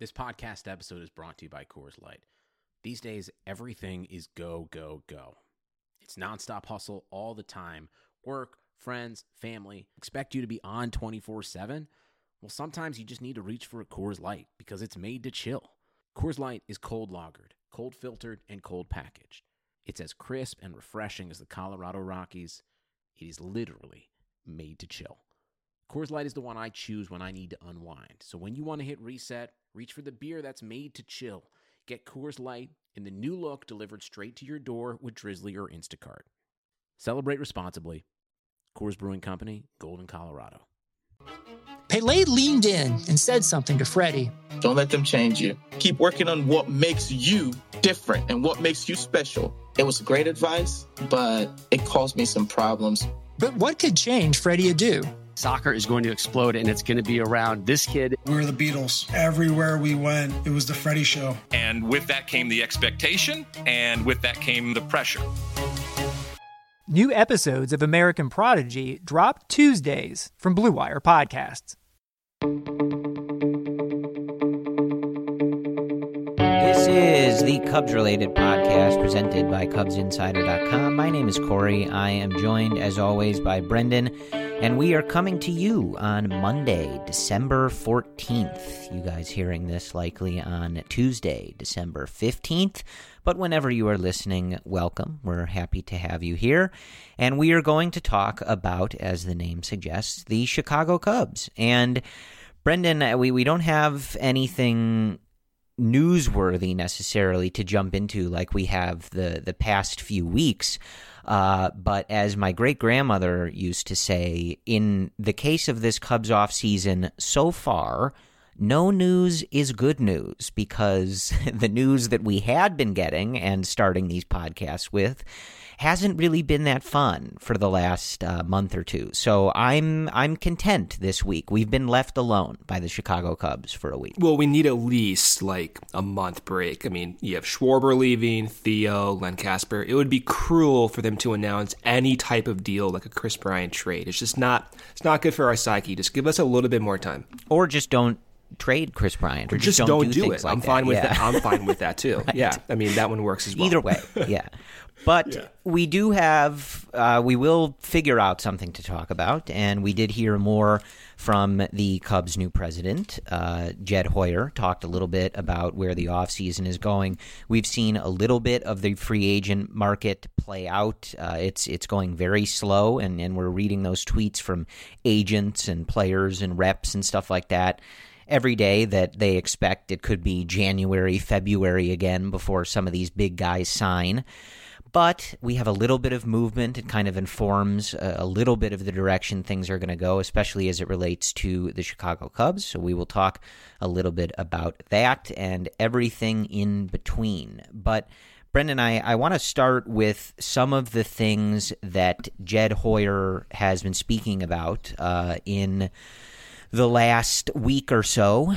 This podcast episode is brought to you by Coors Light. These days, everything is go, go, go. It's nonstop hustle all the time. Work, friends, family, expect you to be on 24/7. Well, sometimes you just need to reach for a Coors Light because it's made to chill. Coors Light is cold lagered, cold filtered, and cold packaged. It's as crisp and refreshing as the Colorado Rockies. It is literally made to chill. Coors Light is the one I choose when I need to unwind. So when you want to hit reset, reach for the beer that's made to chill. Get Coors Light in the new look delivered straight to your door with Drizzly or Instacart. Celebrate responsibly. Coors Brewing Company, Golden, Colorado. Pele leaned in and said something to Freddie. Don't let them change you. Keep working on what makes you different and what makes you special. It was great advice, but it caused me some problems. But what could change Freddie Adu? Soccer is going to explode, and it's going to be around this kid. We were the Beatles. Everywhere we went, it was the Freddie Show. And with that came the expectation, and with that came the pressure. New episodes of American Prodigy drop Tuesdays from Blue Wire Podcasts. This is the Cubs-related podcast presented by CubsInsider.com. My name is Corey. I am joined, as always, by Brendan, and we are coming to you on Monday, December 14th. You guys hearing this likely on Tuesday, December 15th. But whenever you are listening, welcome. We're happy to have you here. And we are going to talk about, as the name suggests, the Chicago Cubs. And Brendan, we don't have anything newsworthy necessarily to jump into like we have the past few weeks. But as my great-grandmother used to say, in the case of this Cubs offseason so far, no news is good news, because the news that we had been getting and starting these podcasts with hasn't really been that fun for the last month or two. So I'm content this week. We've been left alone by the Chicago Cubs for a week. Well, we need at least like a month break. I mean, you have Schwarber leaving, Theo, Len Casper. It would be cruel for them to announce any type of deal like a Kris Bryant trade. It's not good for our psyche. Just give us a little bit more time. Or just don't trade Kris Bryant, or just don't do it. Like I'm fine with that. that. I'm fine with that too. Right. Yeah, I mean that one works as well. Either way, yeah. But we do have, we will figure out something to talk about, and we did hear more from the Cubs' new president, Jed Hoyer, talked a little bit about where the offseason is going. We've seen a little bit of the free agent market play out. It's going very slow, and we're reading those tweets from agents and players and reps and stuff like that every day that they expect it could be January, February again before some of these big guys sign. But we have a little bit of movement. It kind of informs a little bit of the direction things are going to go, especially as it relates to the Chicago Cubs. So we will talk a little bit about that and everything in between. But Brendan, I want to start with some of the things that Jed Hoyer has been speaking about in the last week or so,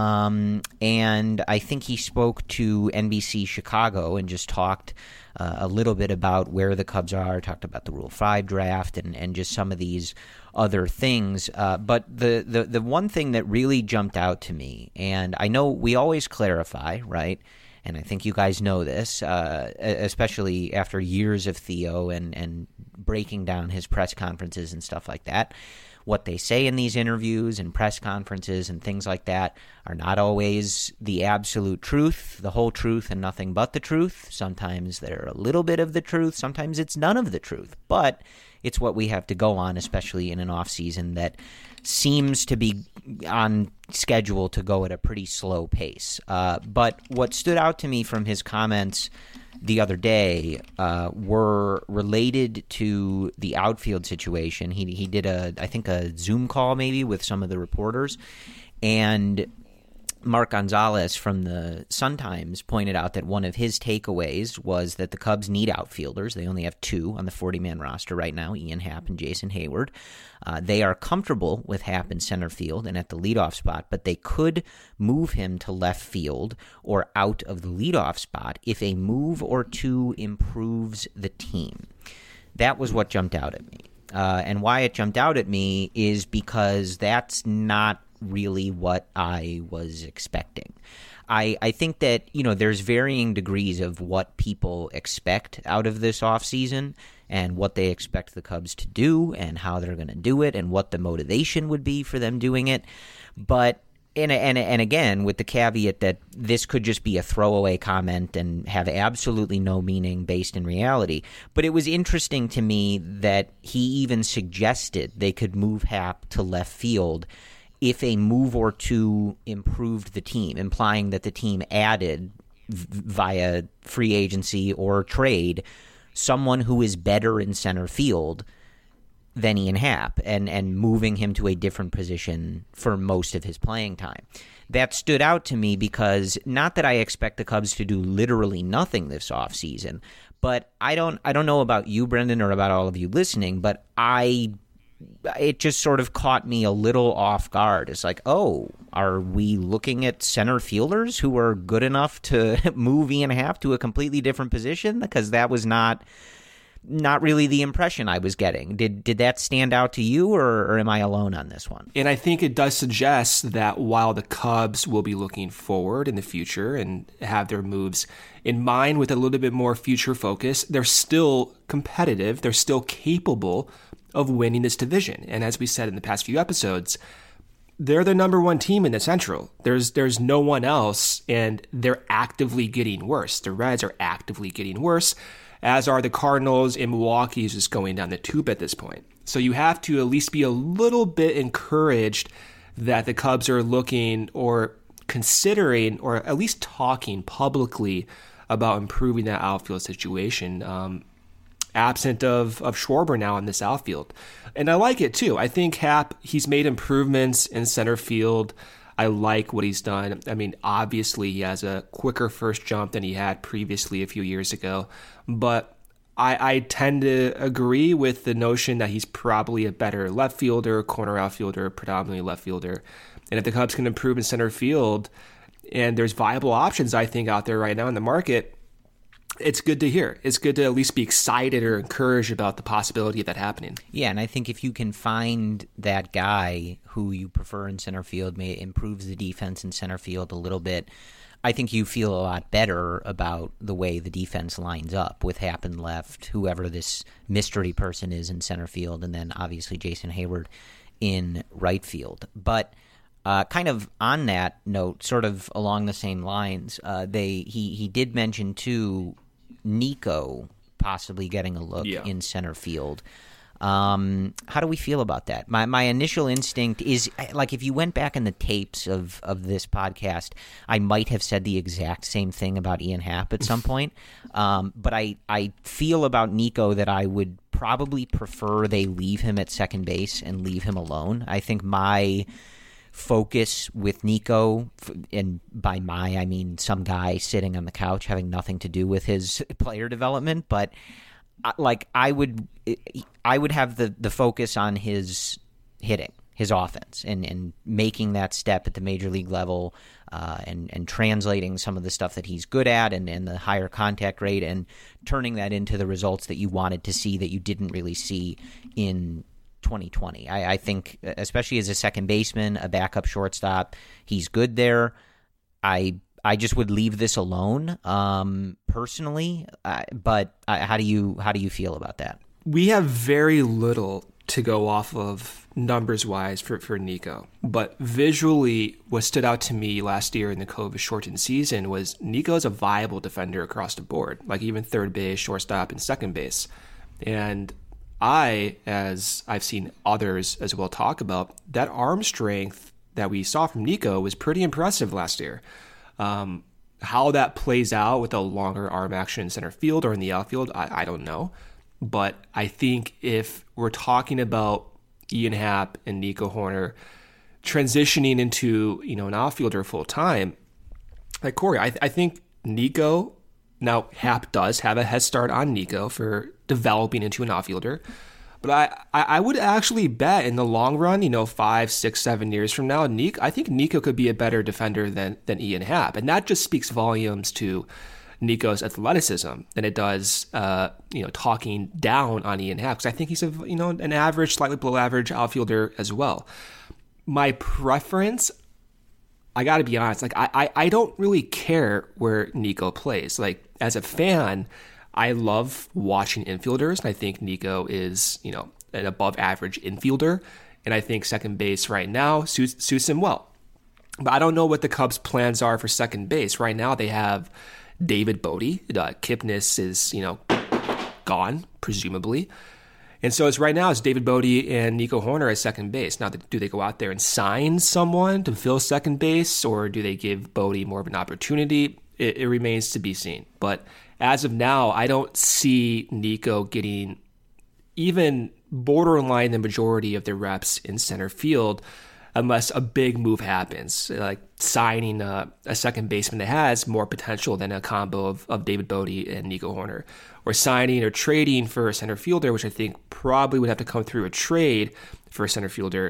and I think he spoke to NBC Chicago and just talked a little bit about where the Cubs are, talked about the Rule 5 draft and just some of these other things. But the one thing that really jumped out to me, and I know we always clarify, right? And I think you guys know this, especially after years of Theo and breaking down his press conferences and stuff like that. What they say in these interviews and press conferences and things like that are not always the absolute truth, the whole truth, and nothing but the truth. Sometimes they're a little bit of the truth. Sometimes it's none of the truth. But it's what we have to go on, especially in an offseason that seems to be on schedule to go at a pretty slow pace. But what stood out to me from his comments the other day were related to the outfield situation. He did I think a Zoom call maybe with some of the reporters, and Mark Gonzalez from the Sun-Times pointed out that one of his takeaways was that the Cubs need outfielders. They only have two on the 40-man roster right now, Ian Happ and Jason Hayward. They are comfortable with Happ in center field and at the leadoff spot, but they could move him to left field or out of the leadoff spot if a move or two improves the team. That was what jumped out at me. And why it jumped out at me is because that's not really what I was expecting. I think that, there's varying degrees of what people expect out of this offseason and what they expect the Cubs to do and how they're going to do it and what the motivation would be for them doing it. But and again, with the caveat that this could just be a throwaway comment and have absolutely no meaning based in reality. But it was interesting to me that he even suggested they could move Happ to left field if a move or two improved the team, implying that the team added via free agency or trade someone who is better in center field than Ian Happ and moving him to a different position for most of his playing time. That stood out to me because not that I expect the Cubs to do literally nothing this offseason, but I don't know about you, Brendan, or about all of you listening, but it just sort of caught me a little off guard. It's like, oh, are we looking at center fielders who are good enough to move Ian Happ to a completely different position? Because that was not really the impression I was getting. Did that stand out to you, or am I alone on this one? And I think it does suggest that while the Cubs will be looking forward in the future and have their moves in mind with a little bit more future focus, they're still competitive. They're still capable of winning this division. And as we said in the past few episodes, they're the number one team in the Central. There's no one else, and they're actively getting worse. The Reds are actively getting worse, as are the Cardinals, and Milwaukee is just going down the tube at this point. So you have to at least be a little bit encouraged that the Cubs are looking or considering or at least talking publicly about improving that outfield situation, absent of Schwarber now in this outfield. And I like it too. I think Happ, he's made improvements in center field. I like what he's done. I mean, obviously he has a quicker first jump than he had previously a few years ago, but I tend to agree with the notion that he's probably a better left fielder, corner outfielder, predominantly left fielder. And if the Cubs can improve in center field, and there's viable options, I think, out there right now in the market, it's good to hear. It's good to at least be excited or encouraged about the possibility of that happening. Yeah, and I think if you can find that guy who you prefer in center field, may improves the defense in center field a little bit, I think you feel a lot better about the way the defense lines up with Happ in left, whoever this mystery person is in center field, and then obviously Jason Hayward in right field. But kind of on that note, sort of along the same lines, he did mention too Nico possibly getting a look in center field. How do we feel about that? My initial instinct is, like, if you went back in the tapes of this podcast, I might have said the exact same thing about Ian Happ at some point. But I feel about Nico that I would probably prefer they leave him at second base and leave him alone. I think my focus with Nico, and by I mean some guy sitting on the couch having nothing to do with his player development, but I would have the focus on his hitting, his offense, and making that step at the major league level, and translating some of the stuff that he's good at and the higher contact rate, and turning that into the results that you wanted to see that you didn't really see in 2020. I think, especially as a second baseman, a backup shortstop, he's good there. I just would leave this alone, personally. But how do you feel about that? We have very little to go off of numbers-wise for Nico. But visually, what stood out to me last year in the COVID-shortened season was Nico's a viable defender across the board, like even third base, shortstop, and second base. And as I've seen others as well talk about, that arm strength that we saw from Nico was pretty impressive last year. How that plays out with a longer arm action in center field or in the outfield, I don't know. But I think if we're talking about Ian Happ and Nico Hoerner transitioning into, an outfielder full time, like Corey, I think Nico, now Happ does have a head start on Nico for developing into an outfielder. But I would actually bet in the long run, 5, 6, 7 years from now, I think Nico could be a better defender than Ian Happ. And that just speaks volumes to Nico's athleticism than it does, talking down on Ian Happ. Because I think he's an average, slightly below average outfielder as well. My preference, I got to be honest. Like, I don't really care where Nico plays. Like, as a fan, I love watching infielders, and I think Nico is, an above average infielder, and I think second base right now suits him well. But I don't know what the Cubs' plans are for second base. Right now, they have David Bote. Kipnis is, gone, presumably. And so it's David Bote and Nico Hoerner at second base. Now, do they go out there and sign someone to fill second base, or do they give Bote more of an opportunity? It remains to be seen. But as of now, I don't see Nico getting even borderline the majority of the reps in center field unless a big move happens, like signing a second baseman that has more potential than a combo of David Bote and Nico Hoerner, or signing or trading for a center fielder, which I think probably would have to come through a trade for a center fielder.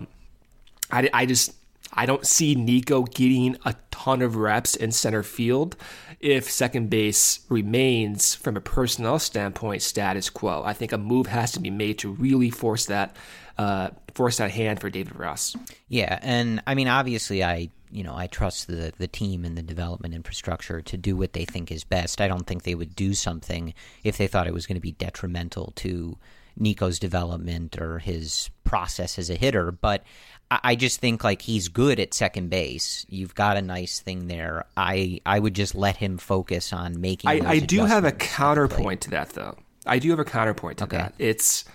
I don't see Nico getting a ton of reps in center field if second base remains, from a personnel standpoint, status quo. I think a move has to be made to really force that hand for David Ross. Yeah, and I mean, obviously, I trust the team and the development infrastructure to do what they think is best. I don't think they would do something if they thought it was going to be detrimental to Nico's development or his process as a hitter. But I just think, like, he's good at second base. You've got a nice thing there. I would just let him focus on making those I do have a counterpoint to that, though. I do have a counterpoint to that. It's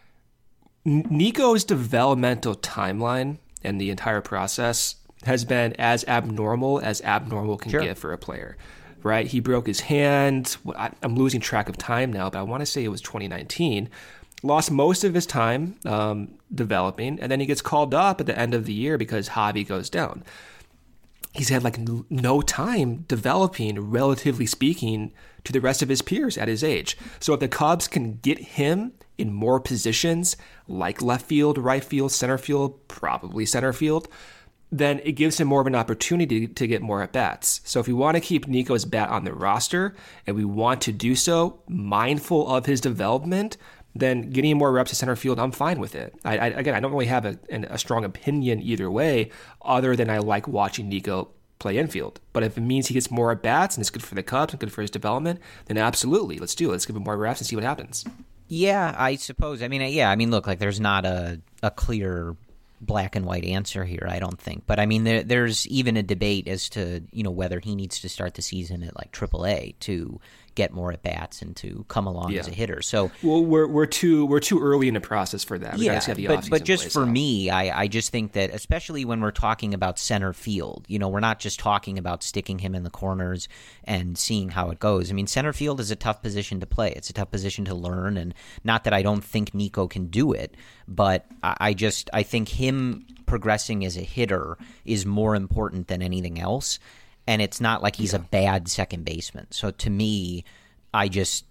Nico's developmental timeline and the entire process has been as abnormal can get for a player, right? He broke his hand. I'm losing track of time now, but I want to say it was 2019. Lost most of his time developing, and then he gets called up at the end of the year because Javi goes down. He's had like no time developing, relatively speaking, to the rest of his peers at his age. So if the Cubs can get him in more positions, like left field, right field, center field, probably center field, then it gives him more of an opportunity to get more at-bats. So if we want to keep Nico's bat on the roster, and we want to do so mindful of his development, then getting more reps at center field, I'm fine with it. I don't really have a strong opinion either way, other than I like watching Nico play infield. But if it means he gets more at-bats and it's good for the Cubs and good for his development, then absolutely, let's do it. Let's give him more reps and see what happens. Yeah, I suppose. I mean, look, like, there's not a clear black and white answer here, I don't think. But I mean, there's even a debate as to, whether he needs to start the season at like AAA to get more at bats and to come along as a hitter. So, well, we're too early in the process for that. But just for me, I just think that, especially when we're talking about center field, we're not just talking about sticking him in the corners and seeing how it goes. I mean, center field is a tough position to play. It's a tough position to learn, and not that I don't think Nico can do it, but I think him progressing as a hitter is more important than anything else. And it's not like he's a bad second baseman. So to me, I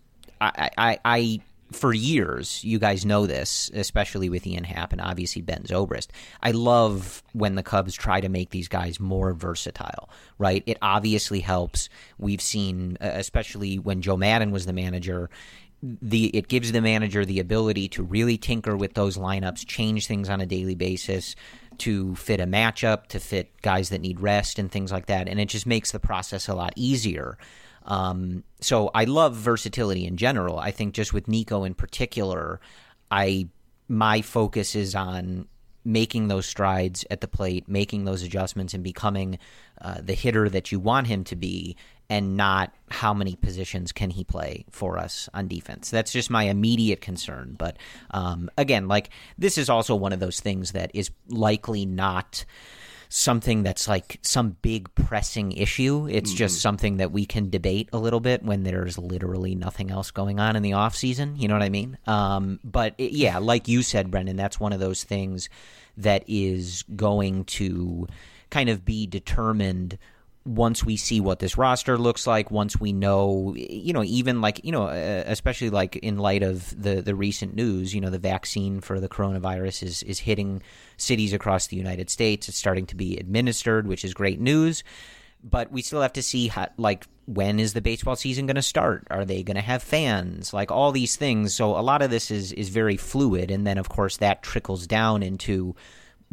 for years, you guys know this, especially with Ian Happ and obviously Ben Zobrist, I love when the Cubs try to make these guys more versatile, right? It obviously helps. We've seen, especially when Joe Maddon was the manager, it gives the manager the ability to really tinker with those lineups, change things on a daily basis, to fit a matchup, to fit guys that need rest and things like that. And it just makes the process a lot easier. So I love versatility in general. I think just with Nico in particular, my focus is on making those strides at the plate, making those adjustments, and becoming the hitter that you want him to be, and not how many positions can he play for us on defense. That's just my immediate concern. But again, like, this is also one of those things that is likely not something that's like some big pressing issue. It's just something that we can debate a little bit when there's literally nothing else going on in the off season. You know what I mean? Yeah, like you said, Brendan, that's one of those things that is going to kind of be determined once we see what this roster looks like, once we know, even like, especially like in light of the recent news, the vaccine for the coronavirus is hitting cities across the United States. It's starting to be administered, which is great news. But we still have to see when is the baseball season going to start? Are they going to have fans? Like, all these things. So a lot of this is very fluid. And then, of course, that trickles down into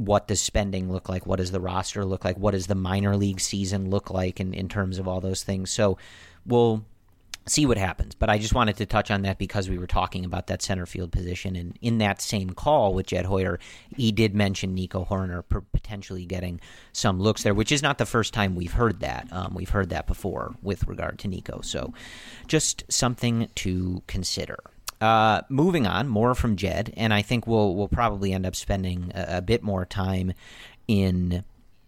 what does spending look like? What does the roster look like? What does the minor league season look like in terms of all those things? So we'll see what happens. But I just wanted to touch on that because we were talking about that center field position. And in that same call with Jed Hoyer, he did mention Nico Hoerner potentially getting some looks there, which is not the first time we've heard that. We've heard that before with regard to Nico. So just something to consider. Moving on, more from Jed, and I think we'll probably end up spending a bit more time in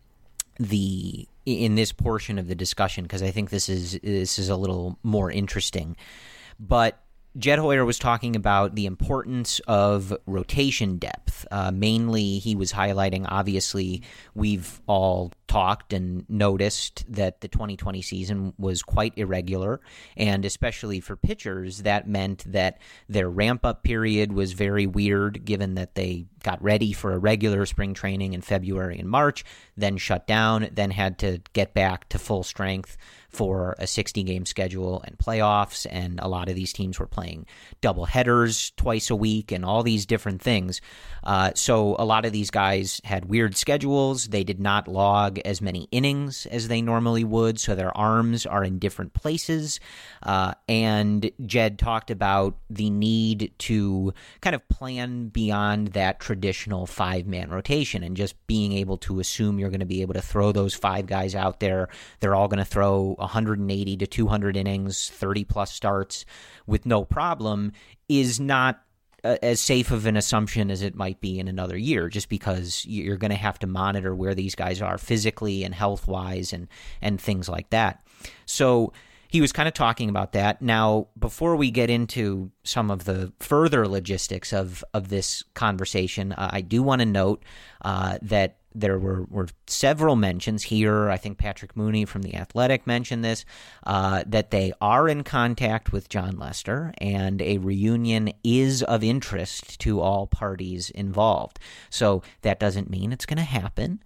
this portion of the discussion because I think this is a little more interesting. But Jed Hoyer was talking about the importance of rotation depth. Mainly, he was highlighting, obviously, we've all talked and noticed that the 2020 season was quite irregular, and especially for pitchers, that meant that their ramp-up period was very weird, given that they got ready for a regular spring training in February and March, then shut down, then had to get back to full strength for a 60-game schedule and playoffs, and a lot of these teams were playing double headers twice a week and all these different things. So a lot of these guys had weird schedules. They did not log as many innings as they normally would, so their arms are in different places. And Jed talked about the need to kind of plan beyond that traditional five-man rotation and just being able to assume you're going to be able to throw those five guys out there. They're all going to throw 180 to 200 innings, 30-plus starts with no problem is not as safe of an assumption as it might be in another year, just because you're going to have to monitor where these guys are physically and health-wise and things like that. So he was kind of talking about that. Now, before we get into some of the further logistics of this conversation, I do want to note that there were several mentions here. I think Patrick Mooney from The Athletic mentioned this, that they are in contact with Jon Lester, and a reunion is of interest to all parties involved. So that doesn't mean it's going to happen,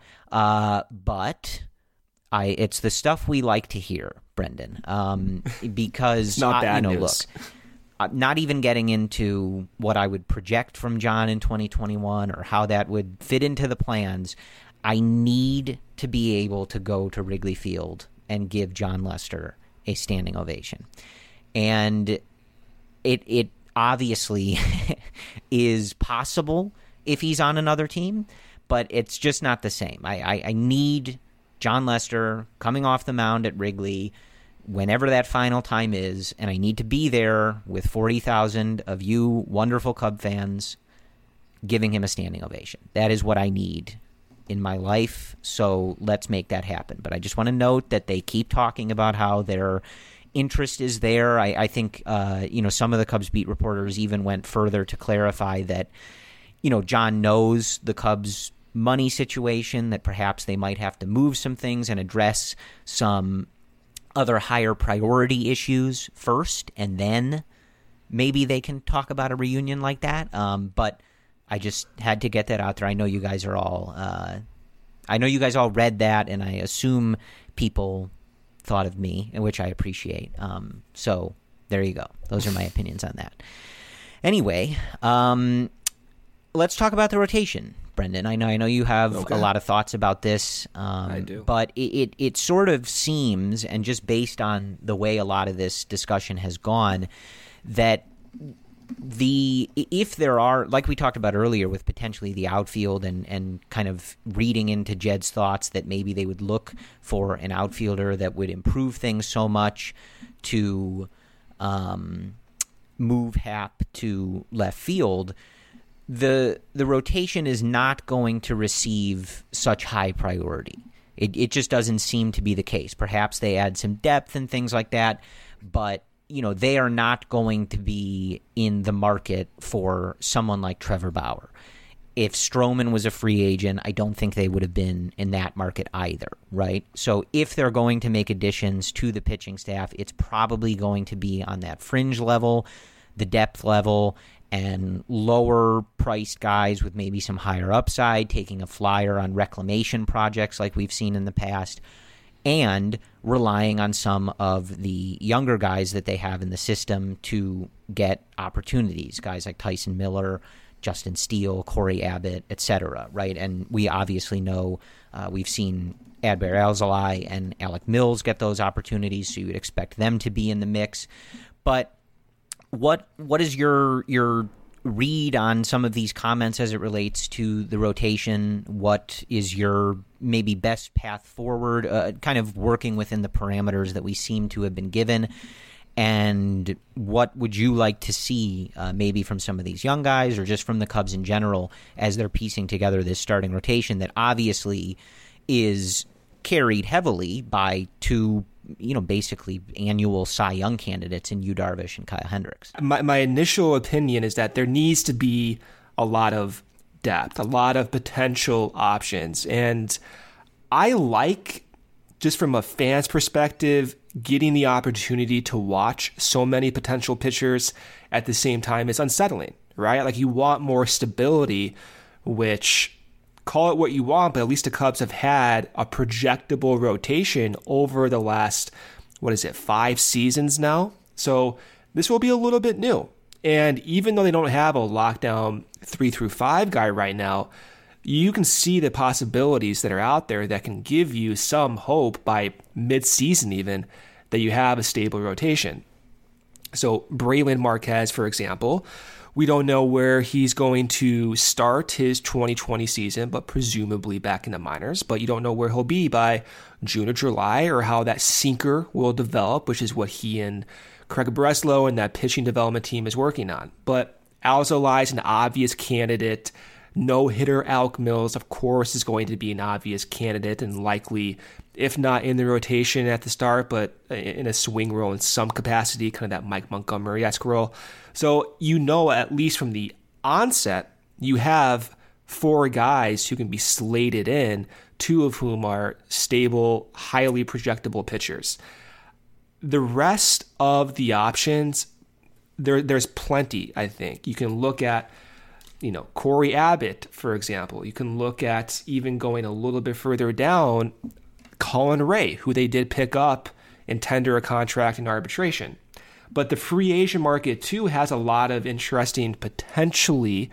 but it's the stuff we like to hear, Brendan, because not bad news. Look, not even getting into what I would project from Jon in 2021 or how that would fit into the plans, I need to be able to go to Wrigley Field and give Jon Lester a standing ovation. And it obviously is possible if he's on another team, but it's just not the same. I need Jon Lester coming off the mound at Wrigley whenever that final time is, and I need to be there with 40,000 of you wonderful Cub fans giving him a standing ovation. That is what I need in my life, so let's make that happen. But I just want to note that they keep talking about how their interest is there. I think some of the Cubs beat reporters even went further to clarify that Jon knows the Cubs' money situation, that perhaps they might have to move some things and address some other higher priority issues first, and then maybe they can talk about a reunion like that. But I just had to get that out there. I know you guys are all read that, and I assume people thought of me, which I appreciate. So there you go. Those are my opinions on that. Anyway, let's talk about the rotation, Brendan. I know you have a lot of thoughts about this. I do. But it sort of seems, and just based on the way a lot of this discussion has gone, that if there are, like we talked about earlier with potentially the outfield and kind of reading into Jed's thoughts that maybe they would look for an outfielder that would improve things so much to move Happ to left field, the rotation is not going to receive such high priority. It just doesn't seem to be the case. Perhaps they add some depth and things like that, but they are not going to be in the market for someone like Trevor Bauer. If Stroman was a free agent, I don't think they would have been in that market either, right? So if they're going to make additions to the pitching staff, it's probably going to be on that fringe level, the depth level, and lower-priced guys with maybe some higher upside, taking a flyer on reclamation projects like we've seen in the past, and relying on some of the younger guys that they have in the system to get opportunities, guys like Tyson Miller, Justin Steele, Corey Abbott, etc., right? And we obviously know we've seen Adbert Alzolay and Alec Mills get those opportunities, so you would expect them to be in the mix. But what is your read on some of these comments as it relates to the rotation? What is your maybe best path forward, kind of working within the parameters that we seem to have been given? And what would you like to see maybe from some of these young guys or just from the Cubs in general as they're piecing together this starting rotation that obviously is carried heavily by two, basically annual Cy Young candidates in Yu Darvish and Kyle Hendricks? My initial opinion is that there needs to be a lot of depth, a lot of potential options. And I like, just from a fan's perspective, getting the opportunity to watch so many potential pitchers at the same time is unsettling, right? Like, you want more stability, which, call it what you want, but at least the Cubs have had a projectable rotation over the last, 5 seasons now? So this will be a little bit new. And even though they don't have a lockdown 3 through 5 guy right now, you can see the possibilities that are out there that can give you some hope by mid-season even that you have a stable rotation. So Braylon Marquez, for example, we don't know where he's going to start his 2020 season, but presumably back in the minors. But you don't know where he'll be by June or July, or how that sinker will develop, which is what he and Craig Breslow and that pitching development team is working on. But Alzolay is an obvious candidate. No-hitter Alec Mills, of course, is going to be an obvious candidate and likely, if not in the rotation at the start, but in a swing role in some capacity, kind of that Mike Montgomery-esque role. So at least from the onset, you have 4 guys who can be slated in, 2 of whom are stable, highly projectable pitchers. The rest of the options, there's plenty, I think. You can look at Corey Abbott, for example. You can look at, even going a little bit further down, Colin Ray, who they did pick up and tender a contract in arbitration. But the free agent market, too, has a lot of interesting, potentially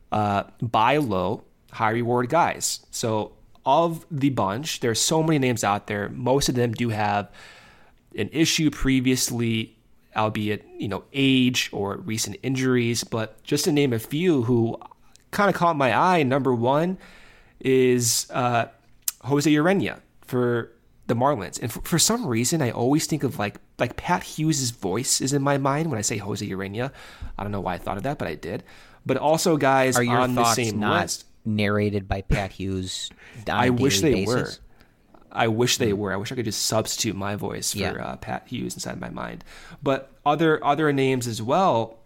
buy low, high reward guys. So of the bunch, there's so many names out there. Most of them do have an issue previously, albeit, age or recent injuries. But just to name a few who kind of caught my eye, number one is Jose Urena for the Marlins. And for some reason, I always think of like Pat Hughes' voice is in my mind when I say Jose Urena. I don't know why I thought of that, but I did. But also guys on the same list. Narrated by Pat Hughes on a I wish they basis? were. I wish they were. I wish I could just substitute my voice for Pat Hughes inside my mind. But other names as well,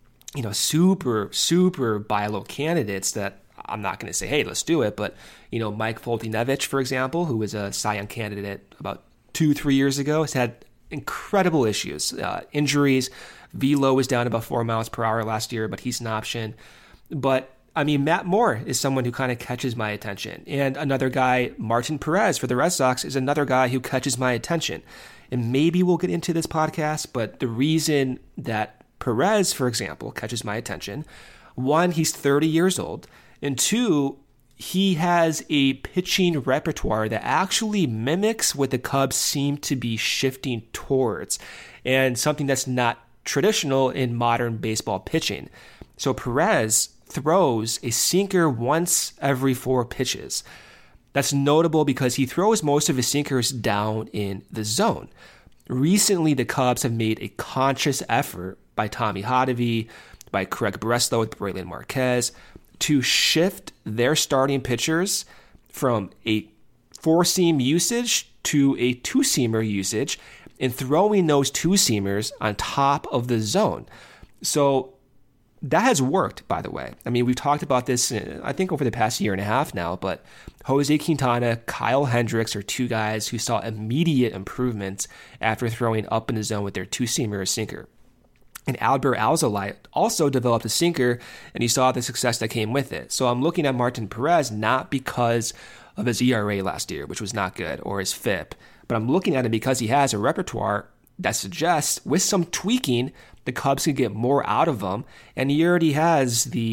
super buy low candidates that I'm not going to say, hey, let's do it. But, Mike Foltynewicz, for example, who was a Cy Young candidate about 2-3 years ago, has had incredible issues, injuries. Velo was down about 4 miles per hour last year, but he's an option. But Matt Moore is someone who kind of catches my attention. And another guy, Martin Perez for the Red Sox, is another guy who catches my attention. And maybe we'll get into this podcast, but the reason that Perez, for example, catches my attention, 1, he's 30 years old, and 2, he has a pitching repertoire that actually mimics what the Cubs seem to be shifting towards, and something that's not traditional in modern baseball pitching. So Perez throws a sinker once every 4 pitches. That's notable because he throws most of his sinkers down in the zone. Recently, the Cubs have made a conscious effort by Tommy Hotovy, by Craig Breslow with Braylon Marquez, to shift their starting pitchers from a 4-seam usage to a 2-seamer usage, and throwing those 2-seamers on top of the zone. So that has worked, by the way. We've talked about this, I think, over the past year and a half now, but Jose Quintana, Kyle Hendricks are 2 guys who saw immediate improvements after throwing up in the zone with their 2-seamer or sinker. And Adbert Alzolay also developed a sinker, and he saw the success that came with it. So I'm looking at Martin Perez not because of his ERA last year, which was not good, or his FIP, but I'm looking at him because he has a repertoire that suggests, with some tweaking, the Cubs could get more out of him, and he already has the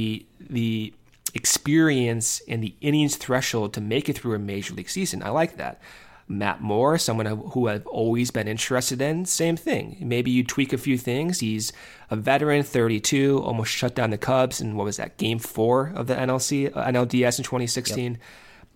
the experience and the innings threshold to make it through a major league season. I like that. Matt Moore, someone who I've always been interested in, same thing. Maybe you tweak a few things. He's a veteran, 32, almost shut down the Cubs in, what was that, Game 4 of the NLDS in 2016. Yep.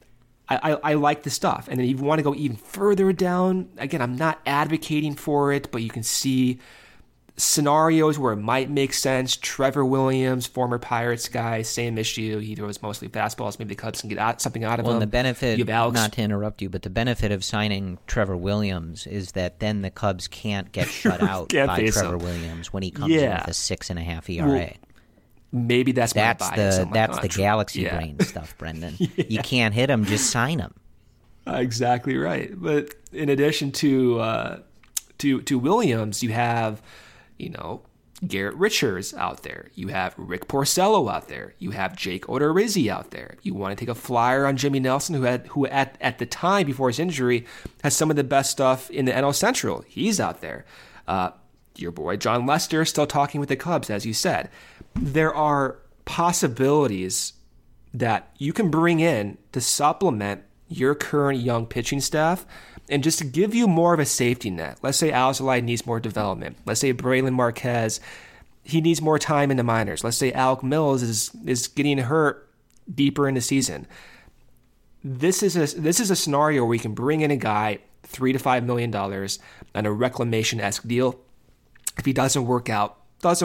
I like the stuff. And then if you want to go even further down, again, I'm not advocating for it, but you can see scenarios where it might make sense. Trevor Williams, former Pirates guy, same issue. He throws mostly fastballs. Maybe the Cubs can get something out of him. Well, the benefit, not to interrupt you, but the benefit of signing Trevor Williams is that then the Cubs can't get shut out by Trevor Williams when he comes in with a 6.5 ERA. Well, maybe that's the galaxy brain stuff, Brendan. Yeah. You can't hit him, just sign him. Exactly right. But in addition to Williams, you have, Garrett Richards out there. You have Rick Porcello out there. You have Jake Odorizzi out there. You want to take a flyer on Jimmy Nelson, who at the time before his injury has some of the best stuff in the NL Central. He's out there. Your boy John Lester still talking with the Cubs, as you said. There are possibilities that you can bring in to supplement your current young pitching staff and just to give you more of a safety net. Let's say Alzolay needs more development. Let's say Braylon Marquez, he needs more time in the minors. Let's say Alec Mills is getting hurt deeper in the season. This is a scenario where you can bring in a guy $3 to $5 million on a reclamation-esque deal. If he doesn't work out.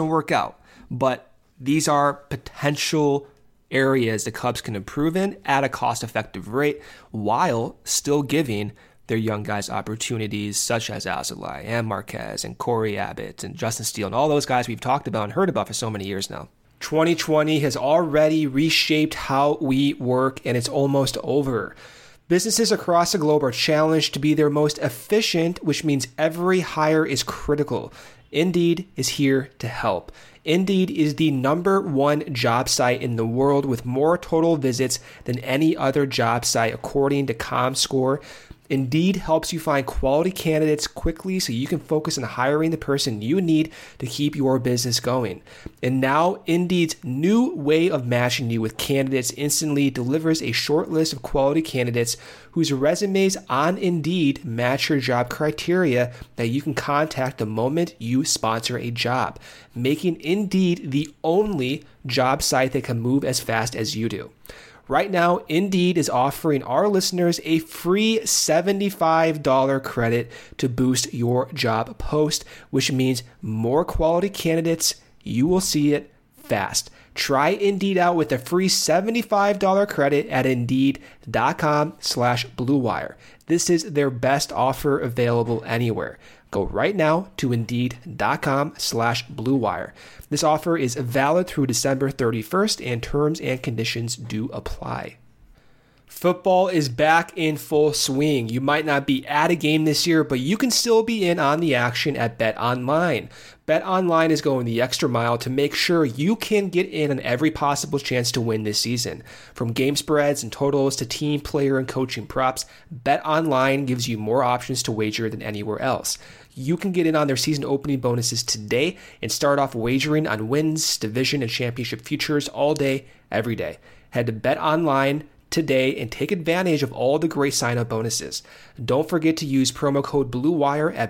But these are potential areas the Cubs can improve in at a cost-effective rate while still giving their young guys opportunities such as Alzolay and Marquez and Corey Abbott and Justin Steele and all those guys we've talked about and heard about for so many years now. 2020 has already reshaped how we work, and it's almost over. Businesses across the globe are challenged to be their most efficient, which means every hire is critical. Indeed is here to help. Indeed is the #1 job site in the world with more total visits than any other job site according to ComScore. Indeed helps you find quality candidates quickly so you can focus on hiring the person you need to keep your business going. And now Indeed's new way of matching you with candidates instantly delivers a short list of quality candidates whose resumes on Indeed match your job criteria that you can contact the moment you sponsor a job, making Indeed the only job site that can move as fast as you do. Right now, Indeed is offering our listeners a free $75 credit to boost your job post, which means more quality candidates. You will see it fast. Try Indeed out with a free $75 credit at Indeed.com/Blue Wire. This is their best offer available anywhere. Go right now to Indeed.com/Blue Wire. This offer is valid through December 31st, and terms and conditions do apply. Football is back in full swing. You might not be at a game this year, but you can still be in on the action at BetOnline. BetOnline is going the extra mile to make sure you can get in on every possible chance to win this season. From game spreads and totals to team, player, and coaching props, BetOnline gives you more options to wager than anywhere else. You can get in on their season opening bonuses today and start off wagering on wins, division, and championship futures all day, every day. Head to BetOnline today and take advantage of all the great sign-up bonuses. Don't forget to use promo code BlueWire at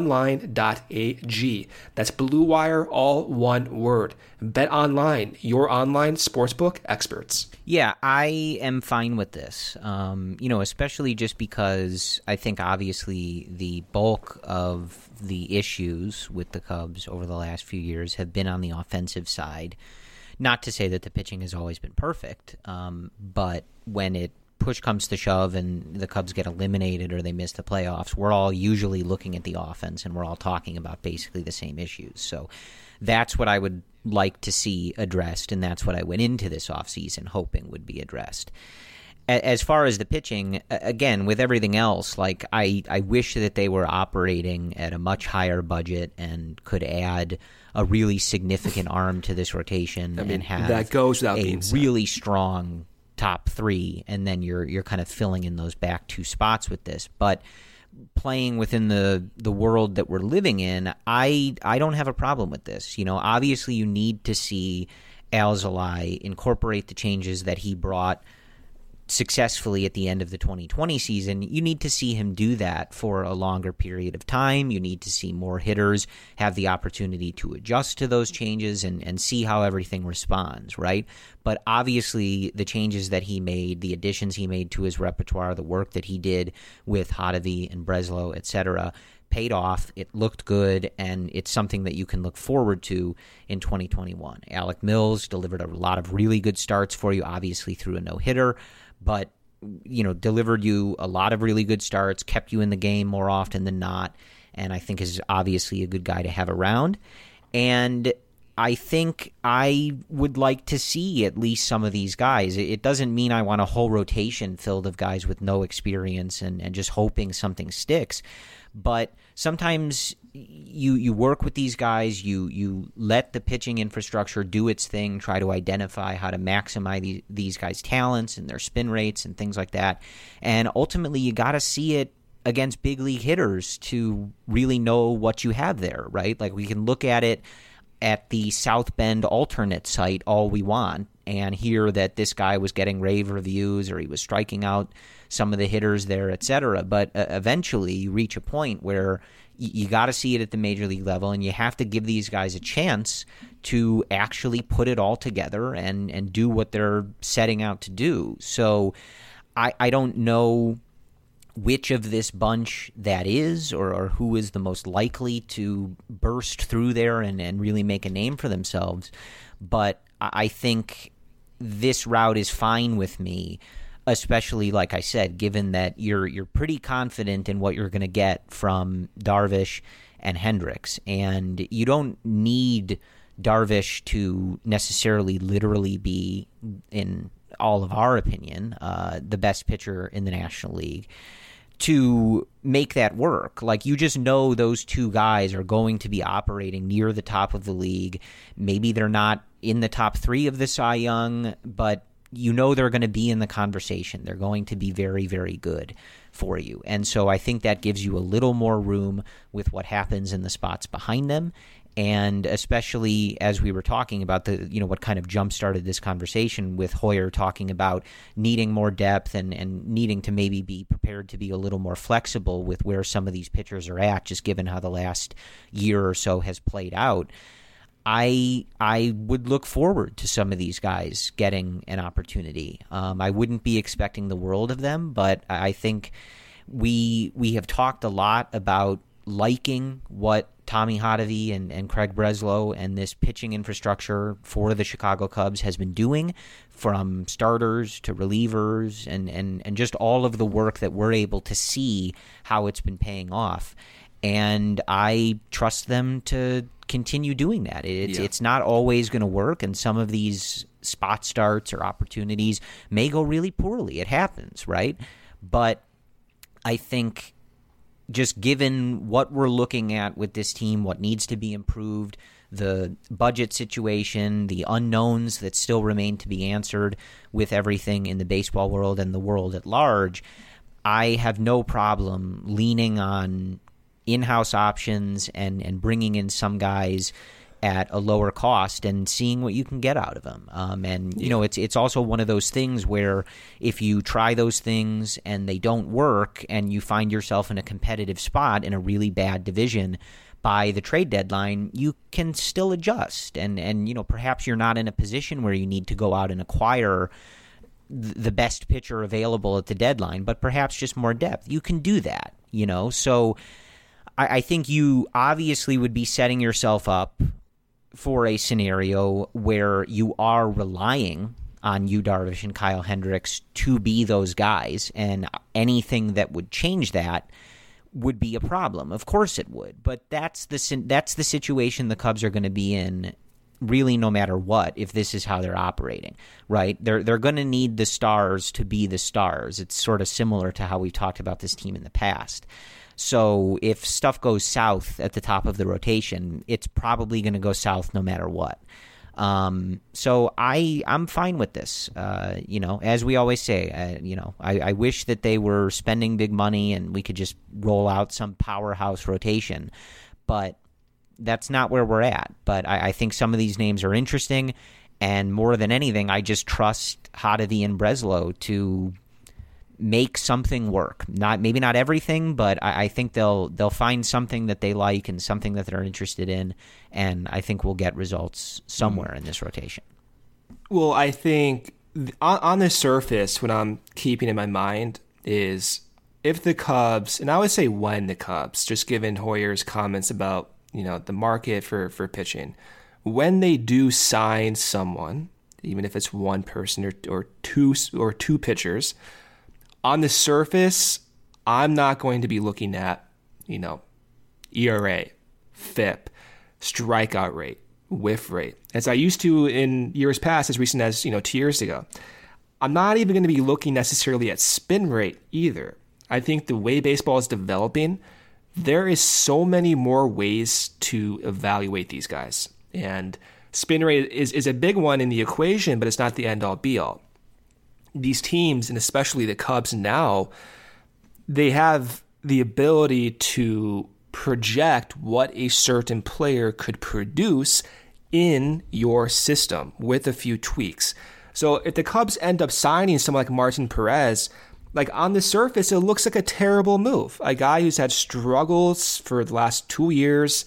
betonline.ag. That's BlueWire, all one word. BetOnline, your online sportsbook experts. Yeah, I am fine with this, especially just because I think obviously the bulk of the issues with the Cubs over the last few years have been on the offensive side. Not to say that the pitching has always been perfect, but when push comes to shove and the Cubs get eliminated or they miss the playoffs, we're all usually looking at the offense and we're all talking about basically the same issues. So that's what I would like to see addressed, and that's what I went into this offseason hoping would be addressed. As far as the pitching, again, with everything else, like I wish that they were operating at a much higher budget and could add a really significant arm to this rotation and have that goes without a being said. Really strong top three, and then you're kind of filling in those back two spots with this. But playing within the world that we're living in, I don't have a problem with this. Obviously you need to see Alzolay incorporate the changes that he brought successfully at the end of the 2020 season, you need to see him do that for a longer period of time. You need to see more hitters have the opportunity to adjust to those changes and see how everything responds, right? But obviously the changes that he made, the additions he made to his repertoire, the work that he did with Hottovy and Breslow, etc., paid off. It looked good, and it's something that you can look forward to in 2021. Alec Mills delivered a lot of really good starts for you, obviously through a no-hitter, but delivered you a lot of really good starts, kept you in the game more often than not, and I think is obviously a good guy to have around. And I think I would like to see at least some of these guys. It doesn't mean I want a whole rotation filled of guys with no experience and just hoping something sticks. But sometimes you work with these guys, you let the pitching infrastructure do its thing, try to identify how to maximize these guys' talents and their spin rates and things like that. And ultimately, you got to see it against big league hitters to really know what you have there, right? Like, we can look at it at the South Bend alternate site all we want and hear that this guy was getting rave reviews or he was striking out some of the hitters there, etc. But eventually you reach a point where you got to see it at the major league level, and you have to give these guys a chance to actually put it all together and do what they're setting out to do. So I don't know which of this bunch that is or who is the most likely to burst through there and really make a name for themselves. But I think this route is fine with me, especially, like I said, given that you're pretty confident in what you're going to get from Darvish and Hendricks. And you don't need Darvish to necessarily literally be, in all of our opinion, the best pitcher in the National League to make that work. Like, you just know those two guys are going to be operating near the top of the league. Maybe they're not in the top 3 of the Cy Young, but you know they're going to be in the conversation. They're going to be very, very good for you. And so I think that gives you a little more room with what happens in the spots behind them. And especially as we were talking about what kind of jump-started this conversation with Hoyer talking about needing more depth and needing to maybe be prepared to be a little more flexible with where some of these pitchers are at, just given how the last year or so has played out. I would look forward to some of these guys getting an opportunity. I wouldn't be expecting the world of them, but I think we have talked a lot about liking what Tommy Hottovy and Craig Breslow and this pitching infrastructure for the Chicago Cubs has been doing, from starters to relievers and just all of the work that we're able to see how it's been paying off. And I trust them to continue doing that. It's not always going to work, and some of these spot starts or opportunities may go really poorly. It happens, right? But I think just given what we're looking at with this team, what needs to be improved, the budget situation, the unknowns that still remain to be answered with everything in the baseball world and the world at large, I have no problem leaning on in-house options and bringing in some guys at a lower cost and seeing what you can get out of them. It's also one of those things where if you try those things and they don't work and you find yourself in a competitive spot in a really bad division by the trade deadline, you can still adjust. And perhaps you're not in a position where you need to go out and acquire the best pitcher available at the deadline, but perhaps just more depth. You can do that, So I think you obviously would be setting yourself up for a scenario where you are relying on Yu Darvish and Kyle Hendricks to be those guys, and anything that would change that would be a problem. Of course it would, but that's the situation the Cubs are going to be in, really, no matter what, if this is how they're operating, right? They're going to need the stars to be the stars. It's sort of similar to how we've talked about this team in the past. So if stuff goes south at the top of the rotation, it's probably going to go south no matter what. So I'm fine with this. As we always say, I wish that they were spending big money and we could just roll out some powerhouse rotation, but that's not where we're at. But I think some of these names are interesting, And more than anything, I just trust Hottovy and Breslow to make something work. Maybe not everything, but I think they'll find something that they like and something that they're interested in, and I think we'll get results somewhere in this rotation. Well, I think on the surface, what I'm keeping in my mind is if the Cubs, and I would say when the Cubs, just given Hoyer's comments about the market for pitching, when they do sign someone, even if it's one person or two pitchers, on the surface, I'm not going to be looking at, ERA, FIP, strikeout rate, whiff rate, as I used to in years past, as recent as, 2 years ago. I'm not even going to be looking necessarily at spin rate either. I think the way baseball is developing, there is so many more ways to evaluate these guys. And spin rate is a big one in the equation, but it's not the end-all, be-all. These teams, and especially the Cubs now, they have the ability to project what a certain player could produce in your system with a few tweaks. So if the Cubs end up signing someone like Martin Perez, like on the surface, it looks like a terrible move. A guy who's had struggles for the last 2 years,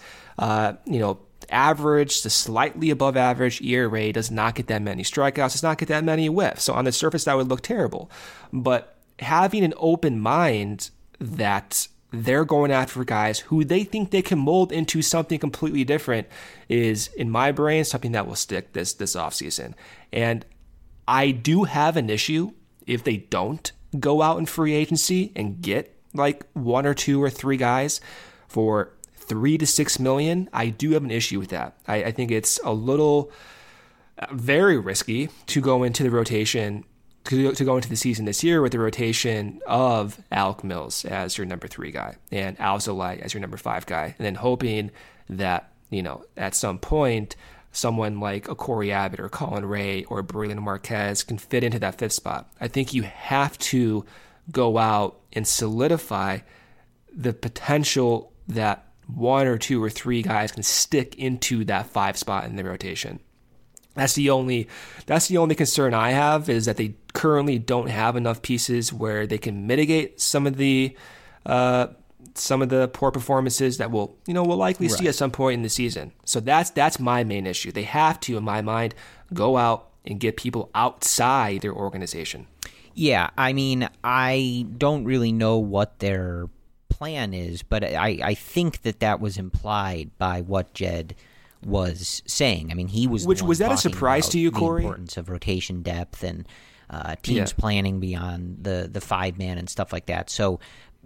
average to slightly above average ERA, does not get that many strikeouts, does not get that many whiffs. So on the surface, that would look terrible. But having an open mind that they're going after guys who they think they can mold into something completely different is, in my brain, something that will stick this offseason. And I do have an issue if they don't go out in free agency and get like 1 or 2 or 3 guys for $3 to $6 million. I do have an issue with that. I think it's a little very risky to go into the rotation, to go into the season this year with the rotation of Alec Mills as your number 3 guy and Alzolay as your number 5 guy, and then hoping that, at some point, someone like a Corey Abbott or Colin Ray or Braylon Marquez can fit into that 5th spot. I think you have to go out and solidify the potential that 1 or 2 or 3 guys can stick into that 5 spot in the rotation. That's the only concern I have, is that they currently don't have enough pieces where they can mitigate some of the poor performances that we'll likely see at some point in the season. So that's my main issue. They have to, in my mind, go out and get people outside their organization. Yeah, I mean, I don't really know what their plan is, but I think that was implied by what Jed was saying. I mean, he was that a surprise to you, Corey? The importance of rotation depth and teams planning beyond the 5-man and stuff like that. So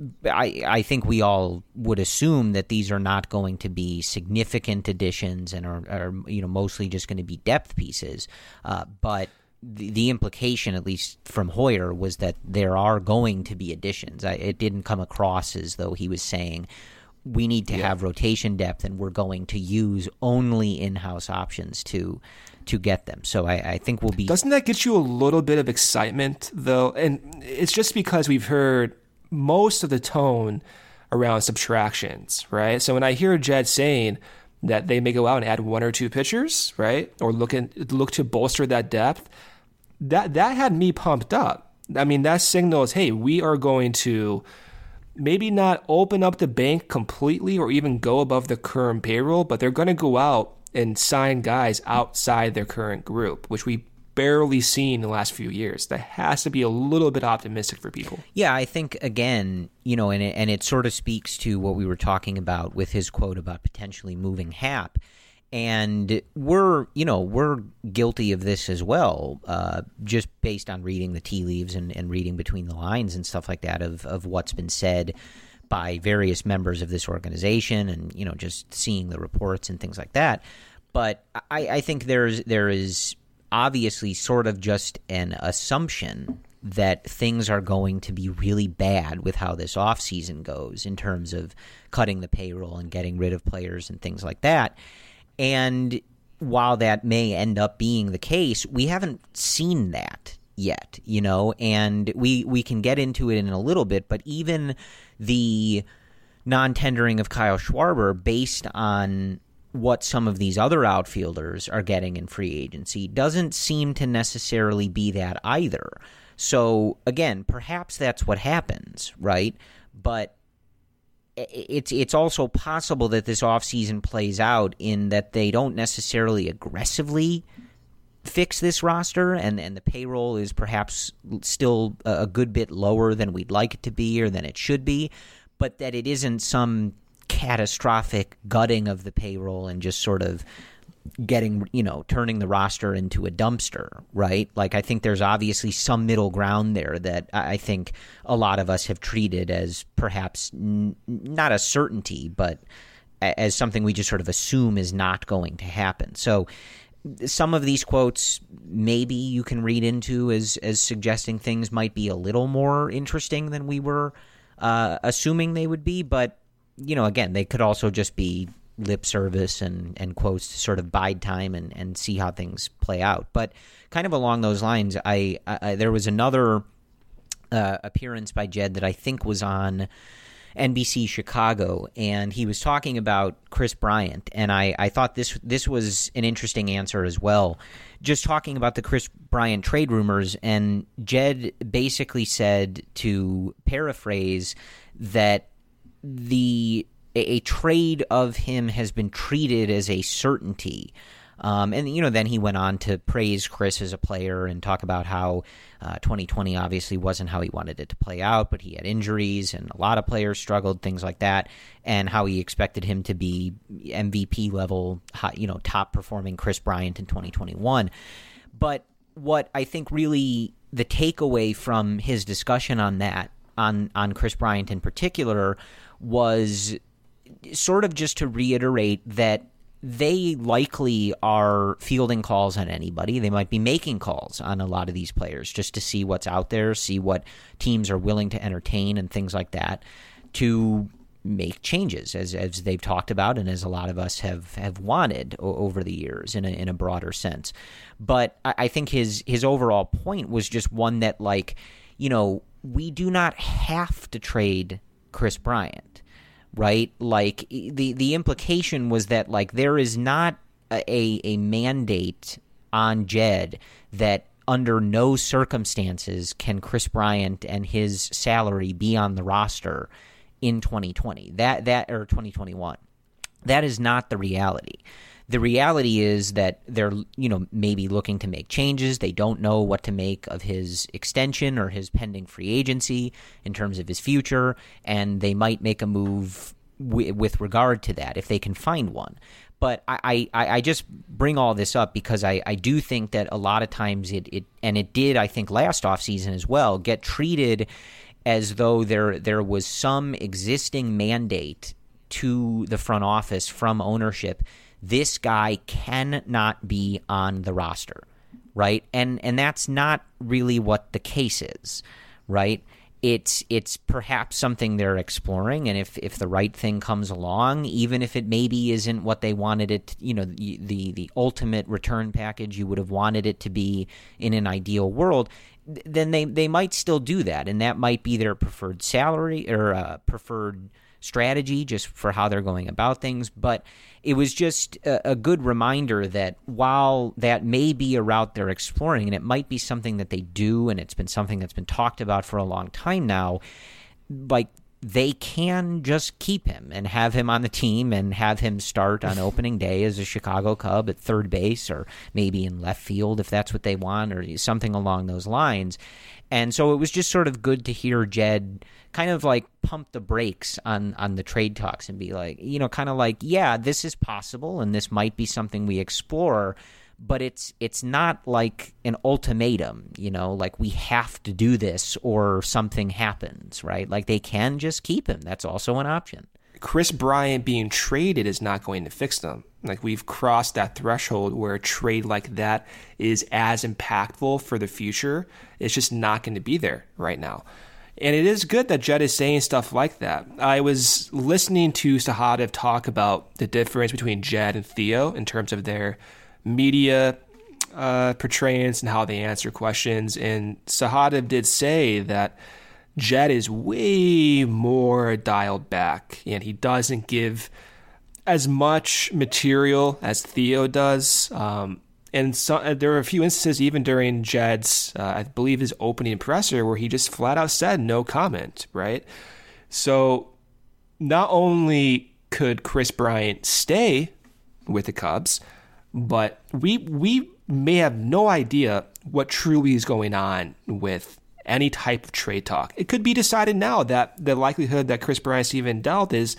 I think we all would assume that these are not going to be significant additions and are mostly just going to be depth pieces. But the implication, at least from Hoyer, was that there are going to be additions. It didn't come across as though he was saying we need to have rotation depth and we're going to use only in-house options to get them. So I think we'll be... Doesn't that get you a little bit of excitement, though? And it's just because we've heard most of the tone around subtractions, right? So when I hear Jed saying that they may go out and add 1 or 2 pitchers, right, or look to bolster that depth, that had me pumped up. I mean, that signals, hey, we are going to maybe not open up the bank completely or even go above the current payroll, but they're going to go out and sign guys outside their current group, which we barely seen in the last few years. That has to be a little bit optimistic for people. Yeah, I think, again, and it sort of speaks to what we were talking about with his quote about potentially moving Happ. And we're guilty of this as well, just based on reading the tea leaves and reading between the lines and stuff like that of what's been said by various members of this organization and, just seeing the reports and things like that. But I think there is obviously sort of just an assumption that things are going to be really bad with how this offseason goes in terms of cutting the payroll and getting rid of players and things like that. And while that may end up being the case, we haven't seen that yet, and we can get into it in a little bit, but even the non-tendering of Kyle Schwarber based on what some of these other outfielders are getting in free agency doesn't seem to necessarily be that either. So, again, perhaps that's what happens, right? But it's also possible that this offseason plays out in that they don't necessarily aggressively fix this roster, and the payroll is perhaps still a good bit lower than we'd like it to be or than it should be, but that it isn't some catastrophic gutting of the payroll and just sort of turning the roster into a dumpster, right? Like, I think there's obviously some middle ground there that I think a lot of us have treated as perhaps not a certainty, but as something we just sort of assume is not going to happen. So some of these quotes maybe you can read into as suggesting things might be a little more interesting than we were assuming they would be, but again, they could also just be lip service and quotes to sort of bide time and see how things play out. But kind of along those lines, I there was another appearance by Jed that I think was on NBC Chicago, and he was talking about Kris Bryant, and I thought this was an interesting answer as well, just talking about the Kris Bryant trade rumors, and Jed basically said, to paraphrase, that a trade of him has been treated as a certainty. And, then he went on to praise Kris as a player and talk about how 2020 obviously wasn't how he wanted it to play out, but he had injuries and a lot of players struggled, things like that, and how he expected him to be MVP level, top performing Kris Bryant in 2021. But what I think really the takeaway from his discussion on that, on Kris Bryant in particular, was sort of just to reiterate that they likely are fielding calls on anybody. They might be making calls on a lot of these players just to see what's out there, see what teams are willing to entertain and things like that, to make changes, as they've talked about and as a lot of us have wanted over the years in a broader sense. But I think his overall point was just one that, we do not have to trade Kris Bryant, right? Like, the implication was that, there is not a mandate on Jed that under no circumstances can Kris Bryant and his salary be on the roster in 2020 or 2021. That is not the reality. The reality is that they're, maybe looking to make changes. They don't know what to make of his extension or his pending free agency in terms of his future, and they might make a move with regard to that if they can find one. But I just bring all this up because I do think that a lot of times it did, I think, last offseason as well, get treated as though there was some existing mandate to the front office from ownership. This guy cannot be on the roster, right? And that's not really what the case is, right? It's perhaps something they're exploring, and if the right thing comes along, even if it maybe isn't what they wanted it, the ultimate return package you would have wanted it to be in an ideal world, then they might still do that, and that might be their preferred salary or preferred strategy just for how they're going about things. But it was just a good reminder that while that may be a route they're exploring, and it might be something that they do, and it's been something that's been talked about for a long time now, they can just keep him and have him on the team and have him start on opening day as a Chicago Cub at third base or maybe in left field if that's what they want or something along those lines. And so it was just sort of good to hear Jed kind of pump the brakes on the trade talks and be yeah, this is possible and this might be something we explore, but it's not like an ultimatum, we have to do this or something happens, right? They can just keep him. That's also an option. Kris Bryant being traded is not going to fix them. We've crossed that threshold where a trade like that is as impactful for the future. It's just not going to be there right now. And it is good that Jed is saying stuff like that. I was listening to Sahadev talk about the difference between Jed and Theo in terms of their media portrayance and how they answer questions. And Sahadev did say that Jed is way more dialed back, and he doesn't give as much material as Theo does. And so, there were a few instances, even during Jed's, I believe his opening presser, where he just flat out said no comment, right? So not only could Kris Bryant stay with the Cubs, but we may have no idea what truly is going on with any type of trade talk. It could be decided now that the likelihood that Kris Bryant's even dealt is,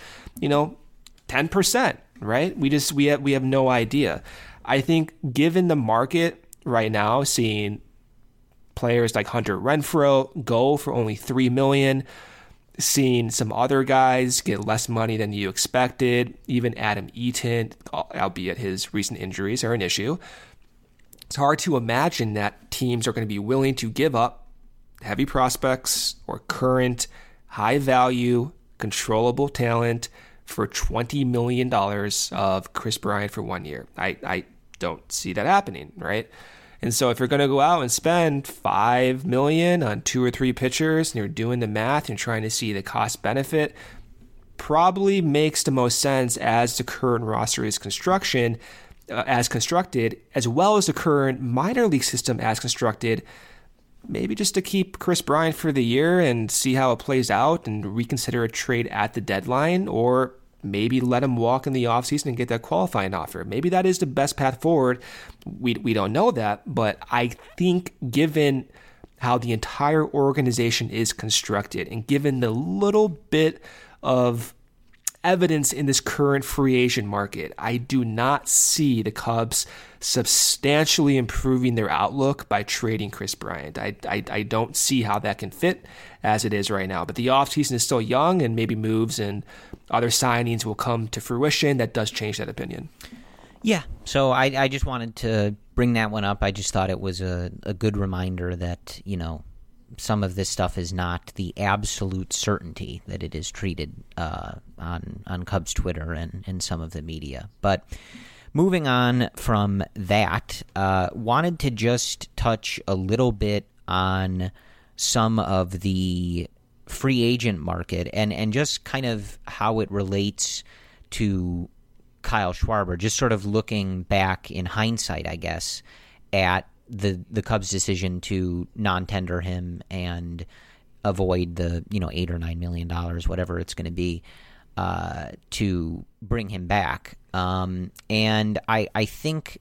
10%, right? We have no idea. I think given the market right now, seeing players like Hunter Renfroe go for only $3 million, seeing some other guys get less money than you expected, even Adam Eaton, albeit his recent injuries are an issue, it's hard to imagine that teams are going to be willing to give up heavy prospects or current high-value, controllable talent for $20 million of Kris Bryant for 1 year. I don't see that happening, right? And so if you're going to go out and spend $5 million on 2 or 3 pitchers and you're doing the math and trying to see the cost benefit, probably makes the most sense as the current roster is constructed, as well as the current minor league system as constructed, maybe just to keep Kris Bryant for the year and see how it plays out and reconsider a trade at the deadline, or maybe let him walk in the offseason and get that qualifying offer. Maybe that is the best path forward. We don't know that, but I think given how the entire organization is constructed and given the little bit of evidence in this current free agent market, I do not see the Cubs substantially improving their outlook by trading Kris Bryant. I don't see how that can fit as it is right now. But the offseason is still young, and maybe moves and other signings will come to fruition. That does change that opinion. Yeah, so I just wanted to bring that one up. I just thought it was a good reminder that, some of this stuff is not the absolute certainty that it is treated on Cubs Twitter and some of the media. But moving on from that, wanted to just touch a little bit on some of the free agent market and just kind of how it relates to Kyle Schwarber, just sort of looking back in hindsight, I guess, at the Cubs' decision to non-tender him and avoid the $8 or $9 million, whatever it's going to be, to bring him back. And I think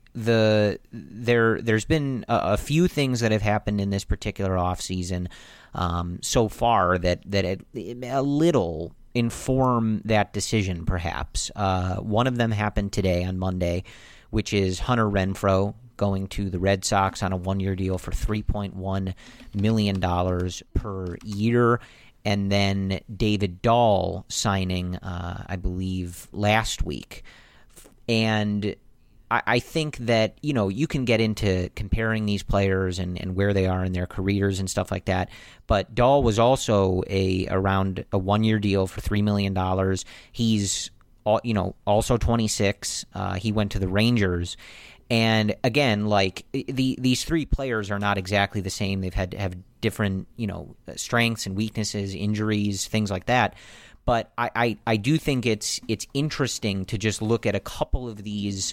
there's been a few things that have happened in this particular offseason so far that a little inform that decision, perhaps. One of them happened today on Monday, which is Hunter Renfroe going to the Red Sox on a 1-year deal for $3.1 million per year. And then David Dahl signing, I believe, last week. And I think that, you can get into comparing these players and where they are in their careers and stuff like that. But Dahl was also around a 1-year deal for $3 million. He's, also 26. He went to the Rangers. And again, like these 3 players are not exactly the same. They've had to have different, strengths and weaknesses, injuries, things like that. But I do think it's interesting to just look at a couple of these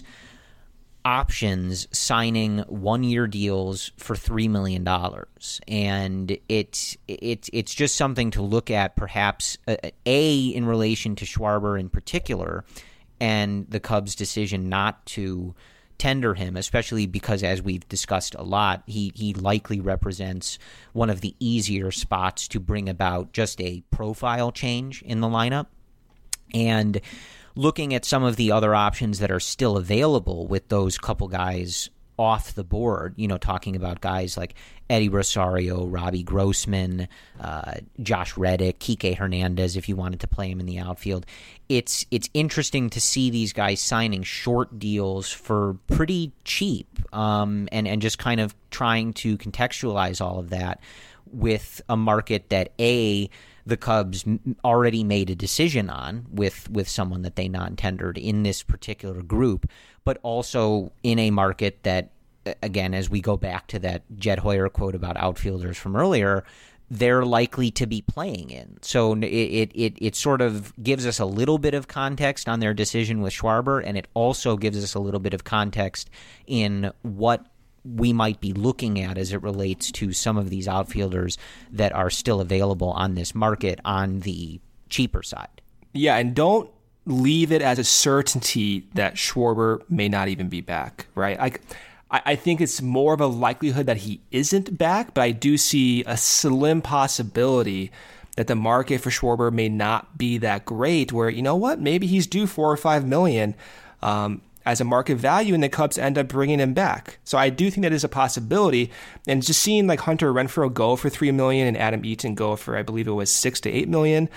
options signing 1-year deals for $3 million. And it's just something to look at, perhaps, in relation to Schwarber in particular, and the Cubs' decision not to tender him, especially because, as we've discussed a lot, he likely represents one of the easier spots to bring about just a profile change in the lineup. And looking at some of the other options that are still available with those couple guys off the board, talking about guys like Eddie Rosario, Robbie Grossman, Josh Reddick, Kike Hernandez, if you wanted to play him in the outfield. It's interesting to see these guys signing short deals for pretty cheap, and just kind of trying to contextualize all of that with a market that, the Cubs already made a decision on with someone that they non-tendered in this particular group, but also in a market that, again, as we go back to that Jed Hoyer quote about outfielders from earlier, they're likely to be playing in. So it sort of gives us a little bit of context on their decision with Schwarber, and it also gives us a little bit of context in what we might be looking at as it relates to some of these outfielders that are still available on this market on the cheaper side. Yeah, and don't leave it as a certainty that Schwarber may not even be back, right? I think it's more of a likelihood that he isn't back, but I do see a slim possibility that the market for Schwarber may not be that great, where, you know what, maybe he's due $4 or $5 million as a market value, and the Cubs end up bringing him back. So I do think that is a possibility. And just seeing like Hunter Renfroe go for $3 million and Adam Eaton go for, I believe it was $6 to $8 million,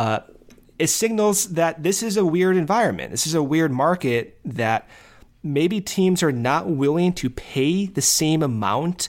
it signals that this is a weird environment. This is a weird market that maybe teams are not willing to pay the same amount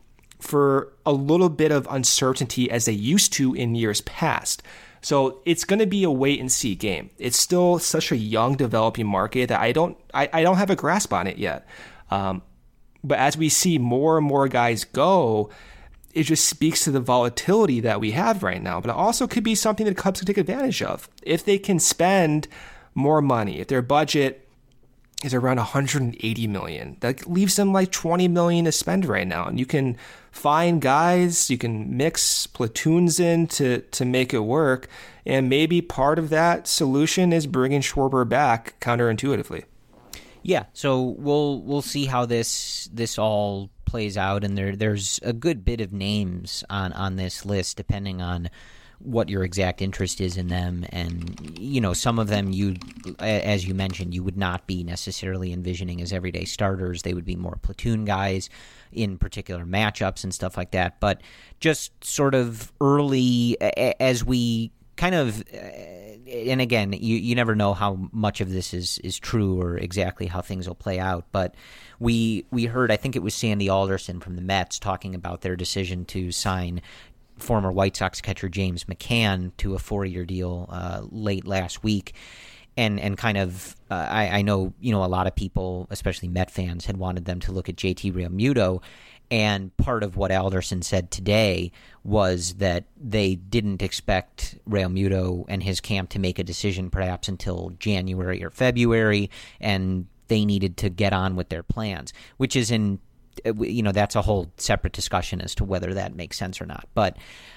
for a little bit of uncertainty as they used to in years past. So it's going to be a wait and see game. It's still such a young developing market that I don't have a grasp on it yet. But as we see more and more guys go, it just speaks to the volatility that we have right now. But it also could be something that Cubs could take advantage of. If they can spend more money, if their budget is around $180 million. That leaves them like $20 million to spend right now. And you can find guys, you can mix platoons in to make it work. And maybe part of that solution is bringing Schwarber back counterintuitively. Yeah, so we'll see how this all plays out. And there's a good bit of names on this list, depending on what your exact interest is in them. And, you know, some of them, you, as you mentioned, you would not be necessarily envisioning as everyday starters. They would be more platoon guys in particular matchups and stuff like that. But just sort of early, as we kind of, and again, you never know how much of this is true or exactly how things will play out. But we heard, I think it was Sandy Alderson from the Mets talking about their decision to sign former White Sox catcher James McCann to a 4-year deal late last week. And kind of, I know, you know, a lot of people, especially Met fans, had wanted them to look at JT Realmuto. And part of what Alderson said today was that they didn't expect Realmuto and his camp to make a decision perhaps until January or February, and they needed to get on with their plans, which is that's a whole separate discussion as to whether that makes sense or not. But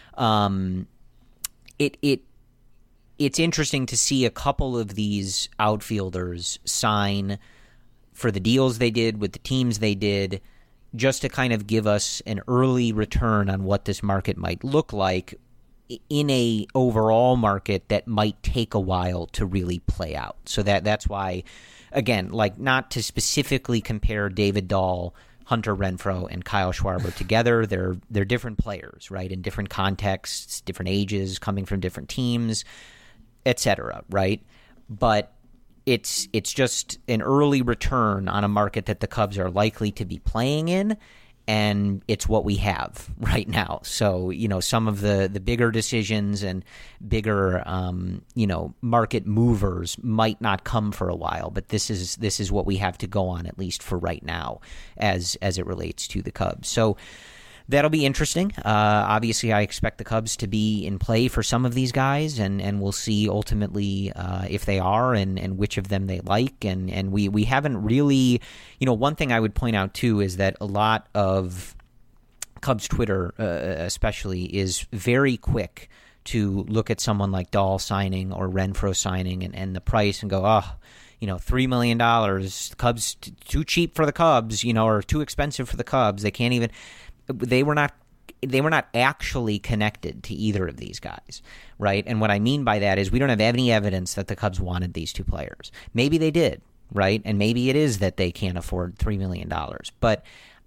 it's interesting to see a couple of these outfielders sign for the deals they did with the teams they did, just to kind of give us an early return on what this market might look like in a overall market that might take a while to really play out. So that's why, again, like, not to specifically compare David Dahl, Hunter Renfroe, and Kyle Schwarber together. They're different players, right, in different contexts, different ages, coming from different teams, etc., right? But it's just an early return on a market that the Cubs are likely to be playing in, and it's what we have right now. So, you know, some of the bigger decisions and bigger, market movers might not come for a while, but this is what we have to go on, at least for right now, as it relates to the Cubs. So that'll be interesting. Obviously, I expect the Cubs to be in play for some of these guys, and we'll see ultimately if they are and which of them they like. And we haven't really, one thing I would point out too is that a lot of Cubs Twitter especially is very quick to look at someone like Dahl signing or Renfroe signing and the price and go, $3 million, Cubs too cheap for the Cubs, or too expensive for the Cubs. They can't even. They were not actually connected to either of these guys, right? And what I mean by that is we don't have any evidence that the Cubs wanted these two players. Maybe they did, right? And maybe it is that they can't afford $3 million. But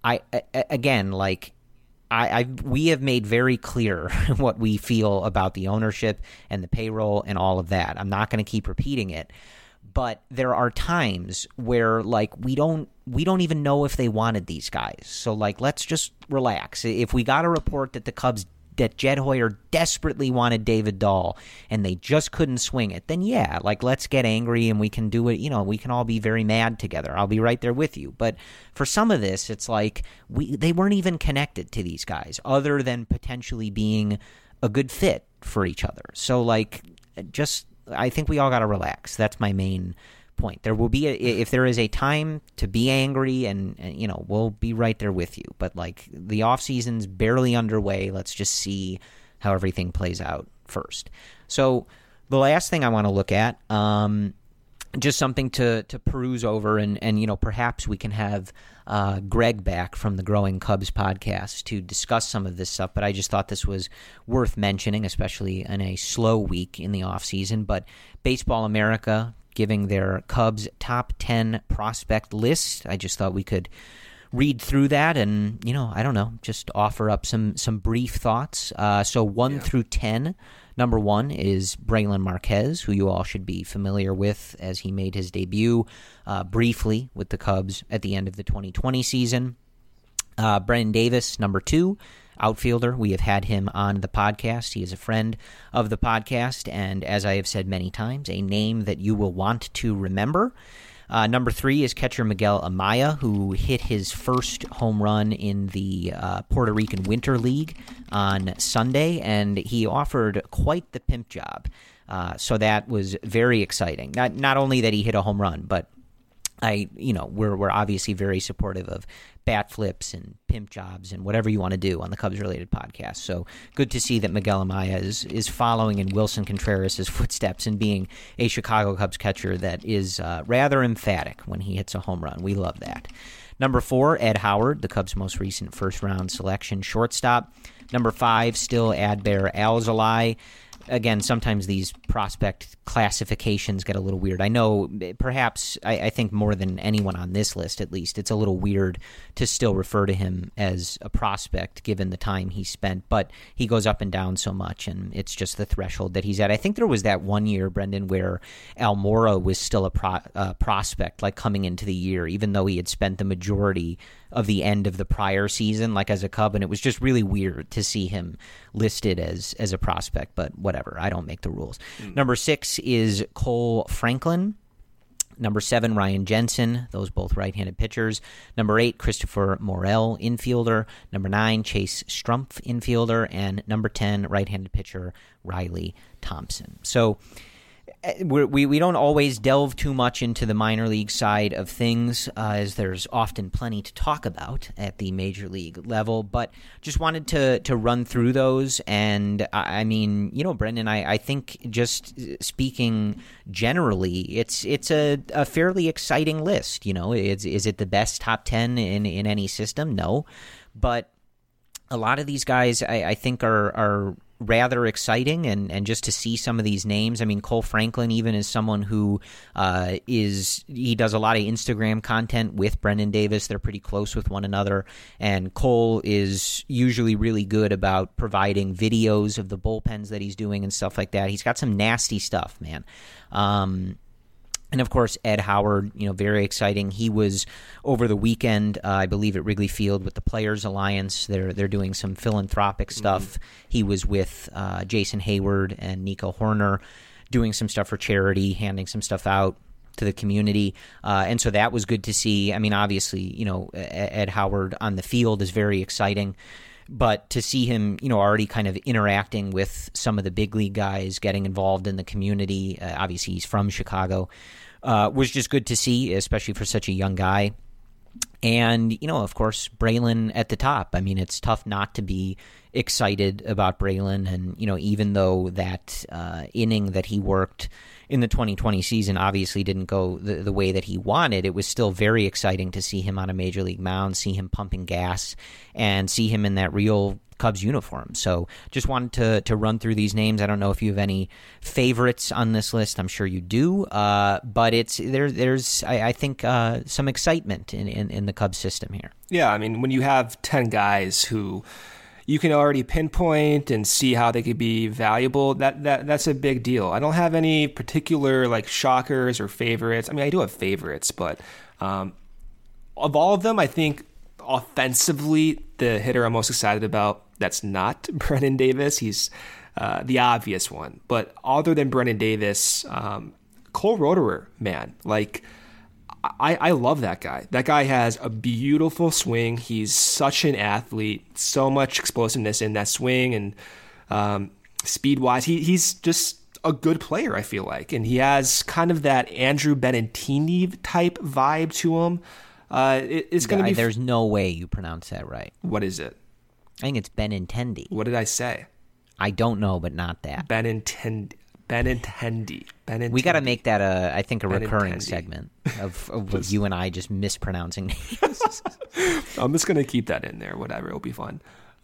we have made very clear what we feel about the ownership and the payroll and all of that. I'm not going to keep repeating it. But there are times where, we don't even know if they wanted these guys. So, let's just relax. If we got a report that the Cubs that Jed Hoyer desperately wanted David Dahl and they just couldn't swing it, then yeah, like let's get angry and we can do it. We can all be very mad together. I'll be right there with you. But for some of this, it's like they weren't even connected to these guys other than potentially being a good fit for each other. So like, I think we all got to relax. That's my main point. There will be if there is a time to be angry, and we'll be right there with you. But like the off season's barely underway. Let's just see how everything plays out first. So the last thing I want to look at, just something to peruse over, and perhaps we can have Greg back from the Growing Cubs podcast to discuss some of this stuff. But I just thought this was worth mentioning, especially in a slow week in the off season. But Baseball America giving their Cubs top 10 prospect list. I just thought we could read through that and, I don't know, just offer up some brief thoughts. So 1 through 10, number 1 is Brailyn Marquez, who you all should be familiar with as he made his debut briefly with the Cubs at the end of the 2020 season. Brennen Davis, number 2. Outfielder. We have had him on the podcast. He is a friend of the podcast, and as I have said many times, a name that you will want to remember. Number 3 is catcher Miguel Amaya, who hit his first home run in the Puerto Rican Winter League on Sunday, and he offered quite the pimp job. So that was very exciting. Not only that he hit a home run, but we're obviously very supportive of bat flips and pimp jobs and whatever you want to do on the Cubs-related podcast. So good to see that Miguel Amaya is following in Wilson Contreras' footsteps and being a Chicago Cubs catcher that is rather emphatic when he hits a home run. We love that. Number 4, Ed Howard, the Cubs' most recent first-round selection shortstop. Number 5, still Adbert Alzolay. Again, sometimes these prospect classifications get a little weird. I know perhaps, I think more than anyone on this list at least, it's a little weird to still refer to him as a prospect given the time he spent, but he goes up and down so much, and it's just the threshold that he's at. I think there was that one year, Brendan, where Almora was still a prospect, like coming into the year, even though he had spent the majority of the end of the prior season, like as a Cub, and it was just really weird to see him listed as a prospect, but whatever, I don't make the rules. Number 6 is Cole Franklin. Number 7, Ryan Jensen, those both right-handed pitchers. Number 8, Christopher Morel, infielder. Number 9, Chase Strumpf, infielder. And number 10, right-handed pitcher Riley Thompson. So we don't always delve too much into the minor league side of things, as there's often plenty to talk about at the major league level, but just wanted to run through those. And I mean, Brendan, I think just speaking generally, it's a fairly exciting list. Is it the best top 10 in any system? No, but a lot of these guys I think are rather exciting, and just to see some of these names. I mean, Cole Franklin even is someone who he does a lot of Instagram content with Brennen Davis. They're pretty close with one another, and Cole is usually really good about providing videos of the bullpens that he's doing and stuff like that. He's got some nasty stuff, man. And, of course, Ed Howard, very exciting. He was over the weekend, I believe, at Wrigley Field with the Players Alliance. They're doing some philanthropic stuff. He was with Jason Hayward and Nico Horner doing some stuff for charity, handing some stuff out to the community. And so that was good to see. I mean, obviously, Ed Howard on the field is very exciting. But to see him, already kind of interacting with some of the big league guys, getting involved in the community, obviously he's from Chicago, was just good to see, especially for such a young guy. And, of course, Brailyn at the top. I mean, it's tough not to be excited about Brailyn. And, even though that inning that he worked in the 2020 season obviously didn't go the way that he wanted, it was still very exciting to see him on a major league mound, see him pumping gas, and see him in that real Cubs uniform. So just wanted to run through these names. I don't know if you have any favorites on this list. I'm sure you do, but there's I think some excitement in the Cubs system here. Yeah, I mean, when you have 10 guys who you can already pinpoint and see how they could be valuable, that's a big deal. I don't have any particular like shockers or favorites. I mean, I do have favorites, but of all of them, I think offensively, the hitter I'm most excited about, that's not Brennen Davis. He's the obvious one. But other than Brennen Davis, Cole Roederer, man, like I love that guy. That guy has a beautiful swing. He's such an athlete, so much explosiveness in that swing, and speed-wise, he's just a good player, I feel like. And he has kind of that Andrew Benintendi type vibe to him. It's going to be... There's no way you pronounce that right. What is it? I think it's Benintendi. What did I say? I don't know, but not that. Benintendi. We got to make that I think a recurring segment of you and I just mispronouncing names. I'm just gonna keep that in there. Whatever, it'll be fun.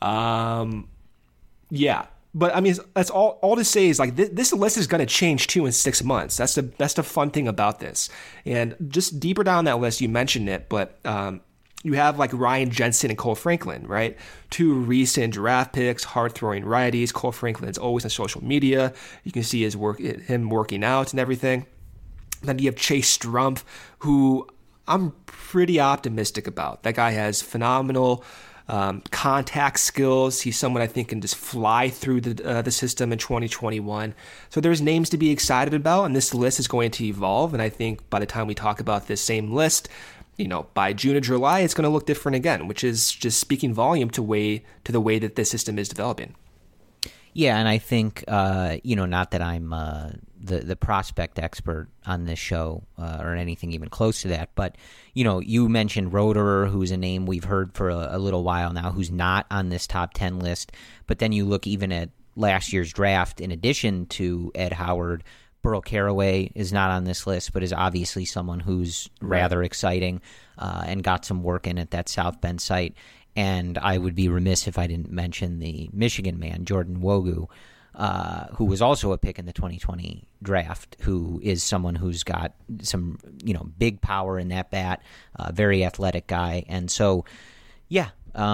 Yeah, but I mean, that's all to say is like this list is gonna change too in 6 months. That's the fun thing about this. And just deeper down that list, you mentioned it, but you have like Ryan Jensen and Cole Franklin, right? 2 recent draft picks, hard-throwing righties. Cole Franklin's always on social media. You can see him working out and everything. Then you have Chase Strumpf, who I'm pretty optimistic about. That guy has phenomenal contact skills. He's someone I think can just fly through the system in 2021. So there's names to be excited about, and this list is going to evolve. And I think by the time we talk about this same list, by June or July, it's going to look different again, which is just speaking volume to the way that this system is developing. Yeah, and I think, not that I'm the prospect expert on this show or anything even close to that, but, you mentioned Roederer, who's a name we've heard for a little while now, who's not on this top 10 list. But then you look even at last year's draft, in addition to Ed Howard, Burl Carraway is not on this list, but is obviously someone who's rather exciting and got some work in at that South Bend site. And I would be remiss if I didn't mention the Michigan man, Jordan Wogu, who was also a pick in the 2020 draft, who is someone who's got some, big power in that bat, very athletic guy. And so, yeah,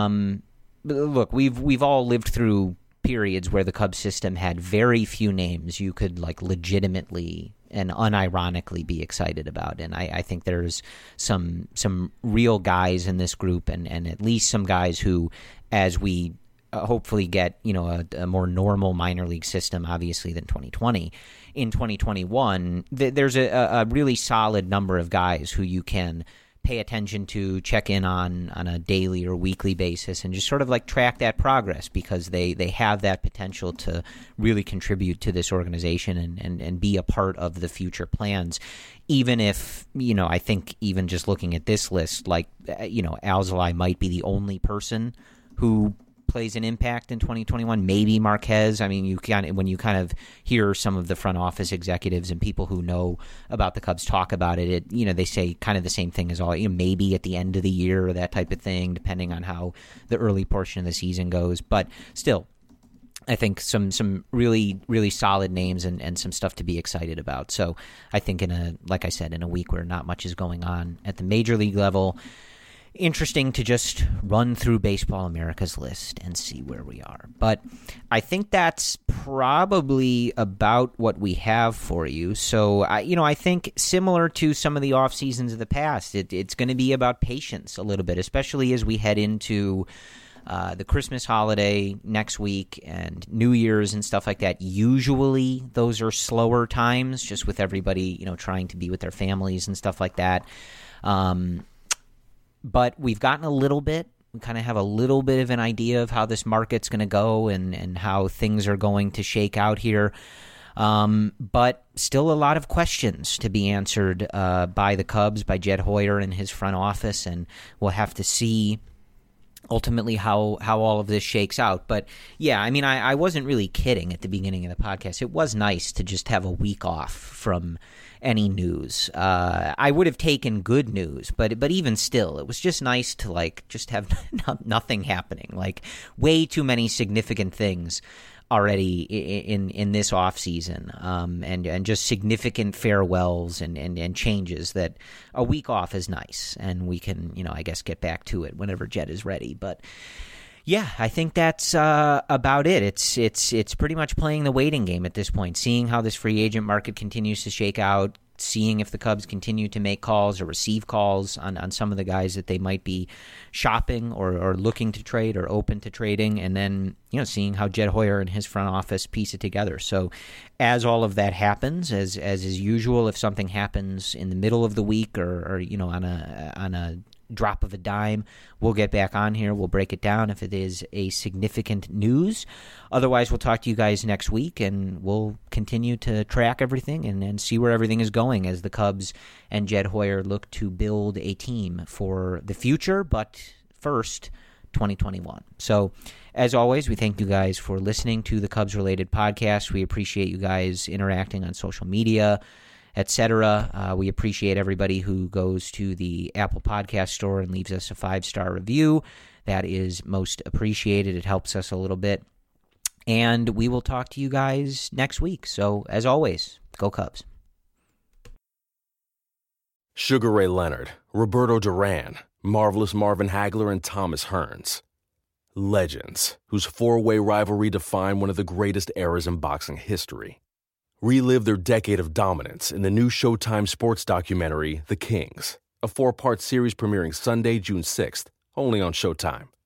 look, we've all lived through periods where the Cubs system had very few names you could legitimately and unironically be excited about. And I think there's some real guys in this group and at least some guys who, as we hopefully get, a more normal minor league system, obviously, than 2020, in 2021, there's a really solid number of guys who you can pay attention to, check in on a daily or weekly basis, and just sort of track that progress, because they have that potential to really contribute to this organization and be a part of the future plans. Even if, I think even just looking at this list, Alzolay might be the only person who plays an impact in 2021. Maybe Marquez. I mean, when you kind of hear some of the front office executives and people who know about the Cubs talk about it, they say kind of the same thing as all, maybe at the end of the year or that type of thing, depending on how the early portion of the season goes. But still, I think some really, really solid names and some stuff to be excited about. So I think like I said, in a week where not much is going on at the major league level, interesting to just run through Baseball America's list and see where we are. But I think that's probably about what we have for you. So, I think similar to some of the off seasons of the past, it's going to be about patience a little bit, especially as we head into the Christmas holiday next week and New Year's and stuff like that. Usually those are slower times, just with everybody, trying to be with their families and stuff like that. But we've gotten a little bit. We kind of have a little bit of an idea of how this market's going to go and how things are going to shake out here. But still a lot of questions to be answered by the Cubs, by Jed Hoyer and his front office, and we'll have to see ultimately how all of this shakes out. But yeah, I mean, I wasn't really kidding at the beginning of the podcast. It was nice to just have a week off from any news. I would have taken good news, but even still, it was just nice to just have nothing happening. Way too many significant things already in this off season, and just significant farewells and changes that a week off is nice, and we can I guess get back to it whenever Jed is ready. But yeah, I think that's about it. It's pretty much playing the waiting game at this point, seeing how this free agent market continues to shake out, seeing if the Cubs continue to make calls or receive calls on some of the guys that they might be shopping or looking to trade or open to trading, and then seeing how Jed Hoyer and his front office piece it together. So as all of that happens, as is usual, if something happens in the middle of the week or on a drop of a dime, we'll get back on here. We'll break it down if it is a significant news. Otherwise, we'll talk to you guys next week, and we'll continue to track everything and see where everything is going as the Cubs and Jed Hoyer look to build a team for the future, but first, 2021. So, as always, we thank you guys for listening to the Cubs-related podcast. We appreciate you guys interacting on social media, etc. We appreciate everybody who goes to the Apple Podcast Store and leaves us a 5-star review. That is most appreciated. It helps us a little bit. And we will talk to you guys next week. So, as always, go Cubs. Sugar Ray Leonard, Roberto Duran, Marvelous Marvin Hagler, and Thomas Hearns. Legends, whose 4-way rivalry defined one of the greatest eras in boxing history. Relive their decade of dominance in the new Showtime sports documentary, The Kings, a 4-part series premiering Sunday, June 6th, only on Showtime.